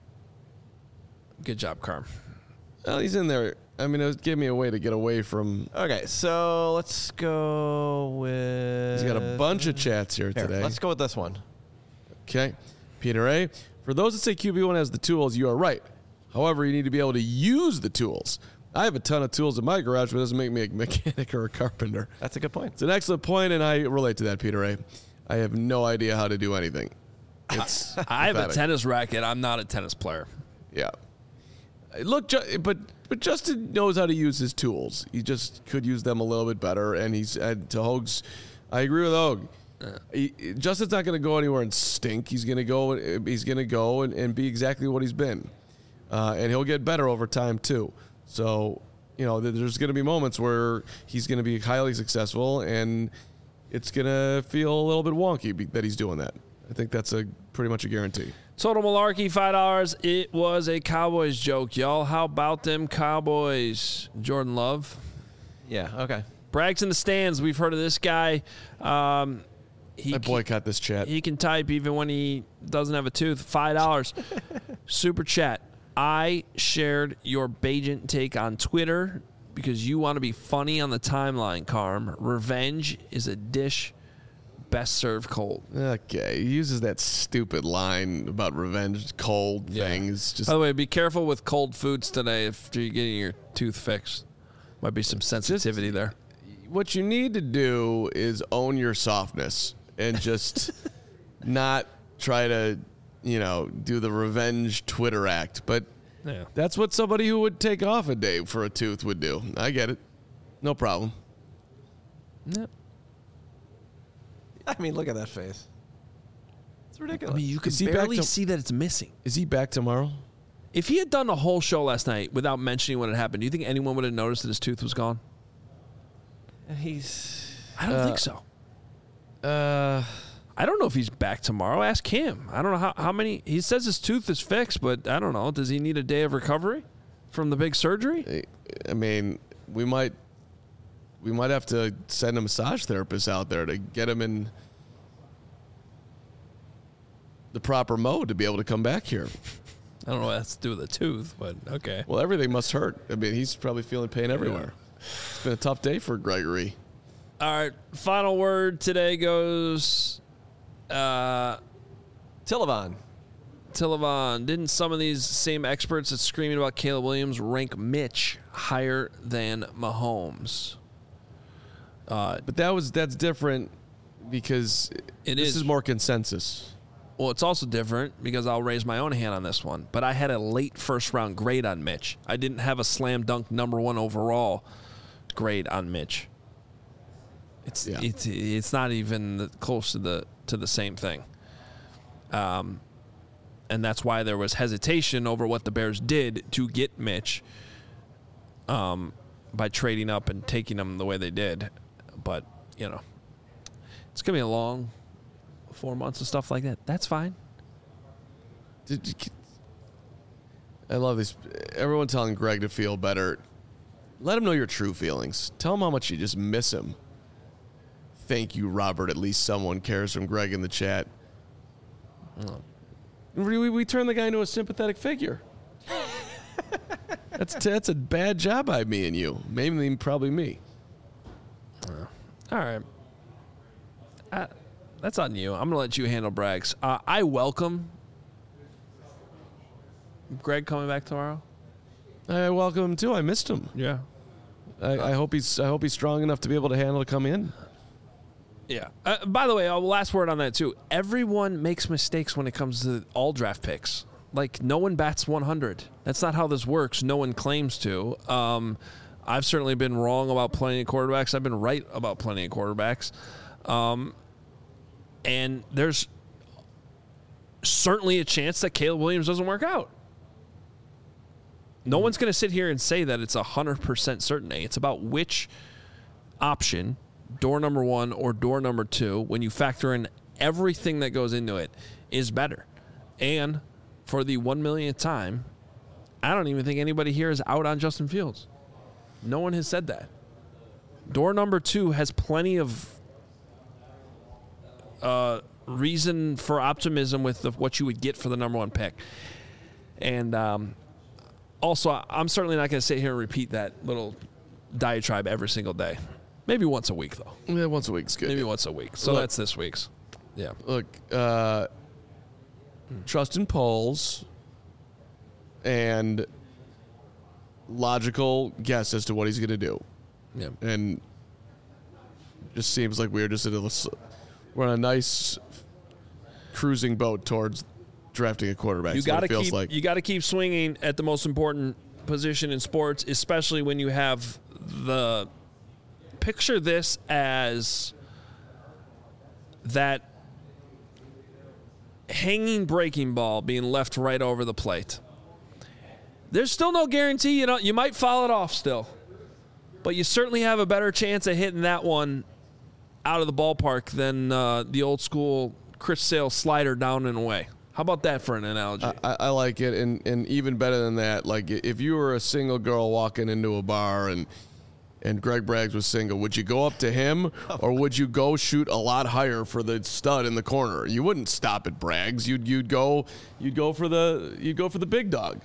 Good job, Carm. Well, he's in there. I mean, it was give me a way to get away from. Okay, so let's go with. He's got a bunch of chats here, Here, today. let's go with this one. Okay. Peter A. For those that say Q B one has the tools, you are right. However, you need to be able to use the tools. I have a ton of tools in my garage, but it doesn't make me a mechanic or a carpenter. That's a good point. It's an excellent point, and I relate to that, Peter A. I have no idea how to do anything. It's I have a pathetic. tennis racket. I'm not a tennis player. Yeah. Look, Ju- but but Justin knows how to use his tools. He just could use them a little bit better. And he's and to Hoag's, I agree with Hoag. He, Justin's not going to go anywhere and stink. He's going to go. He's going to go and, and be exactly what he's been, uh, and he'll get better over time too. So you know, there's going to be moments where he's going to be highly successful, and it's going to feel a little bit wonky be- that he's doing that. I think that's a pretty much a guarantee. Total Malarkey, five dollars. It was a Cowboys joke, y'all. How about them Cowboys? Jordan Love. Yeah. Okay. Bragg's in the stands. We've heard of this guy. Um, he I boycott this chat. He can type even when he doesn't have a tooth. five dollars. Super chat. I shared your Bajent take on Twitter because you want to be funny on the timeline, Carm. Revenge is a dish best served cold. Okay, he uses that stupid line about revenge, cold things. Just By the way, be careful with cold foods today if you're getting your tooth fixed. Might be some sensitivity there. what you need to do is own your softness and just not try to, you know, do the revenge Twitter act. But Yeah. that's what somebody who would take off a day for a tooth would do. I get it. No problem. Yep. I mean, look at that face. It's ridiculous. I mean, you can Is he back barely to- see that it's missing. Is he back tomorrow? If he had done a whole show last night without mentioning what had happened, do you think anyone would have noticed that his tooth was gone? He's. I don't Uh, think so. Uh, I don't know if he's back tomorrow. Ask him. I don't know how, how many. He says his tooth is fixed, but I don't know. Does he need a day of recovery from the big surgery? I mean, we might we might have to send a massage therapist out there to get him in the proper mode to be able to come back here. I don't know what that's to do with the tooth, but okay. Well, everything must hurt. I mean, he's probably feeling pain everywhere. It's been a tough day for Gregory. All right. Final word today goes uh, Tillavan. Tillavan. Didn't some of these same experts that's screaming about Caleb Williams rank Mitch higher than Mahomes? Uh, But that was that's different because It this is. is more consensus. Well, it's also different because I'll raise my own hand on this one. But I had a late first round grade on Mitch. I didn't have a slam dunk number one overall grade on Mitch. It's Yeah. it's it's not even the- close to the to the same thing. Um, and that's why there was hesitation over what the Bears did to get Mitch. Um, by trading up and taking him the way they did, but you know, it's gonna be a long four months of stuff like that. That's fine. Did you, I love this. Everyone telling Greg to feel better. Let him know your true feelings. Tell him how much you just miss him. Thank you, Robert. At least someone cares from Greg in the chat. Oh. We, we, we turn the guy into a sympathetic figure. that's that's a bad job by me and you. Mainly, probably me. Uh, all right. Uh, that's on you. I'm going to let you handle Braggs. Uh, I welcome Greg coming back tomorrow. I welcome him too. I missed him. Yeah. I, I hope he's I hope he's strong enough to be able to handle to come in. Yeah. Uh, by the way, uh, last word on that too. Everyone makes mistakes when it comes to all draft picks. Like no one bats one hundred. That's not how this works. No one claims to. Um, I've certainly been wrong about plenty of quarterbacks. I've been right about plenty of quarterbacks. Um, and there's certainly a chance that Caleb Williams doesn't work out. No one's going to sit here and say that it's one hundred percent certainty. It's about which option, door number one or door number two, when you factor in everything that goes into it, is better. And for the one millionth time, I don't even think anybody here is out on Justin Fields. No one has said that. Door number two has plenty of uh, reason for optimism with the, what you would get for the number one pick. And um, also, I'm certainly not going to sit here and repeat that little diatribe every single day. Maybe once a week, though. Yeah, once a week's good. Maybe once a week. So Look, that's this week's. Yeah. Look, uh, trust in polls and logical guess as to what he's going to do. Yeah. And just seems like we're just in a, we're on a nice cruising boat towards drafting a quarterback. You got to keep like. you got to keep swinging at the most important position in sports, especially when you have the picture this as that hanging breaking ball being left right over the plate. There's still no guarantee, you know, you might foul it off still. But you certainly have a better chance of hitting that one out of the ballpark than uh, the old school Chris Sale slider down and away. How about that for an analogy? I, I like it, and, and even better than that, like if you were a single girl walking into a bar and and Greg Braggs was single, would you go up to him or would you go shoot a lot higher for the stud in the corner? You wouldn't stop at Braggs. You'd you'd go you'd go for the you'd go for the big dog.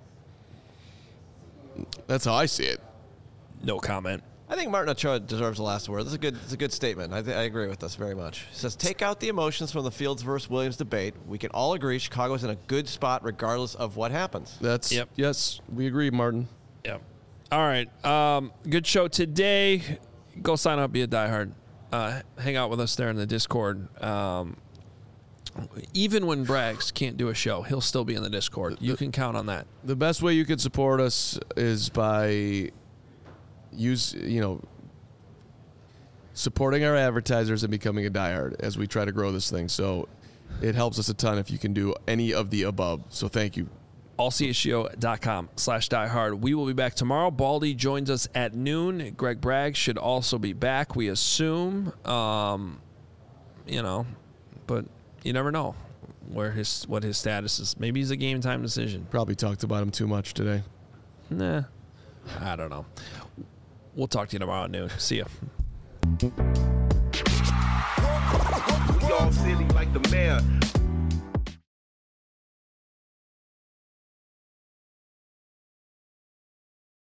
That's how I see it. No comment. I think Martin Ochoa deserves the last word. That's a good, that's a good statement. I, th- I agree with this very much. He says, take out the emotions from the Fields versus Williams debate. We can all agree Chicago's in a good spot regardless of what happens. That's Yep. Yes, we agree, Martin. Yeah. All right. Um, good show today. Go sign up, be a diehard. Uh, hang out with us there in the Discord. Um, even when Braggs can't do a show, he'll still be in the Discord. You can count on that. The best way you can support us is by use you know supporting our advertisers and becoming a diehard as we try to grow this thing. So it helps us a ton if you can do any of the above. So thank you. allcshow.com slash diehard. We will be back tomorrow. Baldy joins us at noon. Greg Braggs should also be back, we assume. Um, you know, but you never know where his what his status is. Maybe he's a game time decision. Probably talked about him too much today. Nah, I don't know. We'll talk to you tomorrow at noon. See ya. We all silly like the mayor.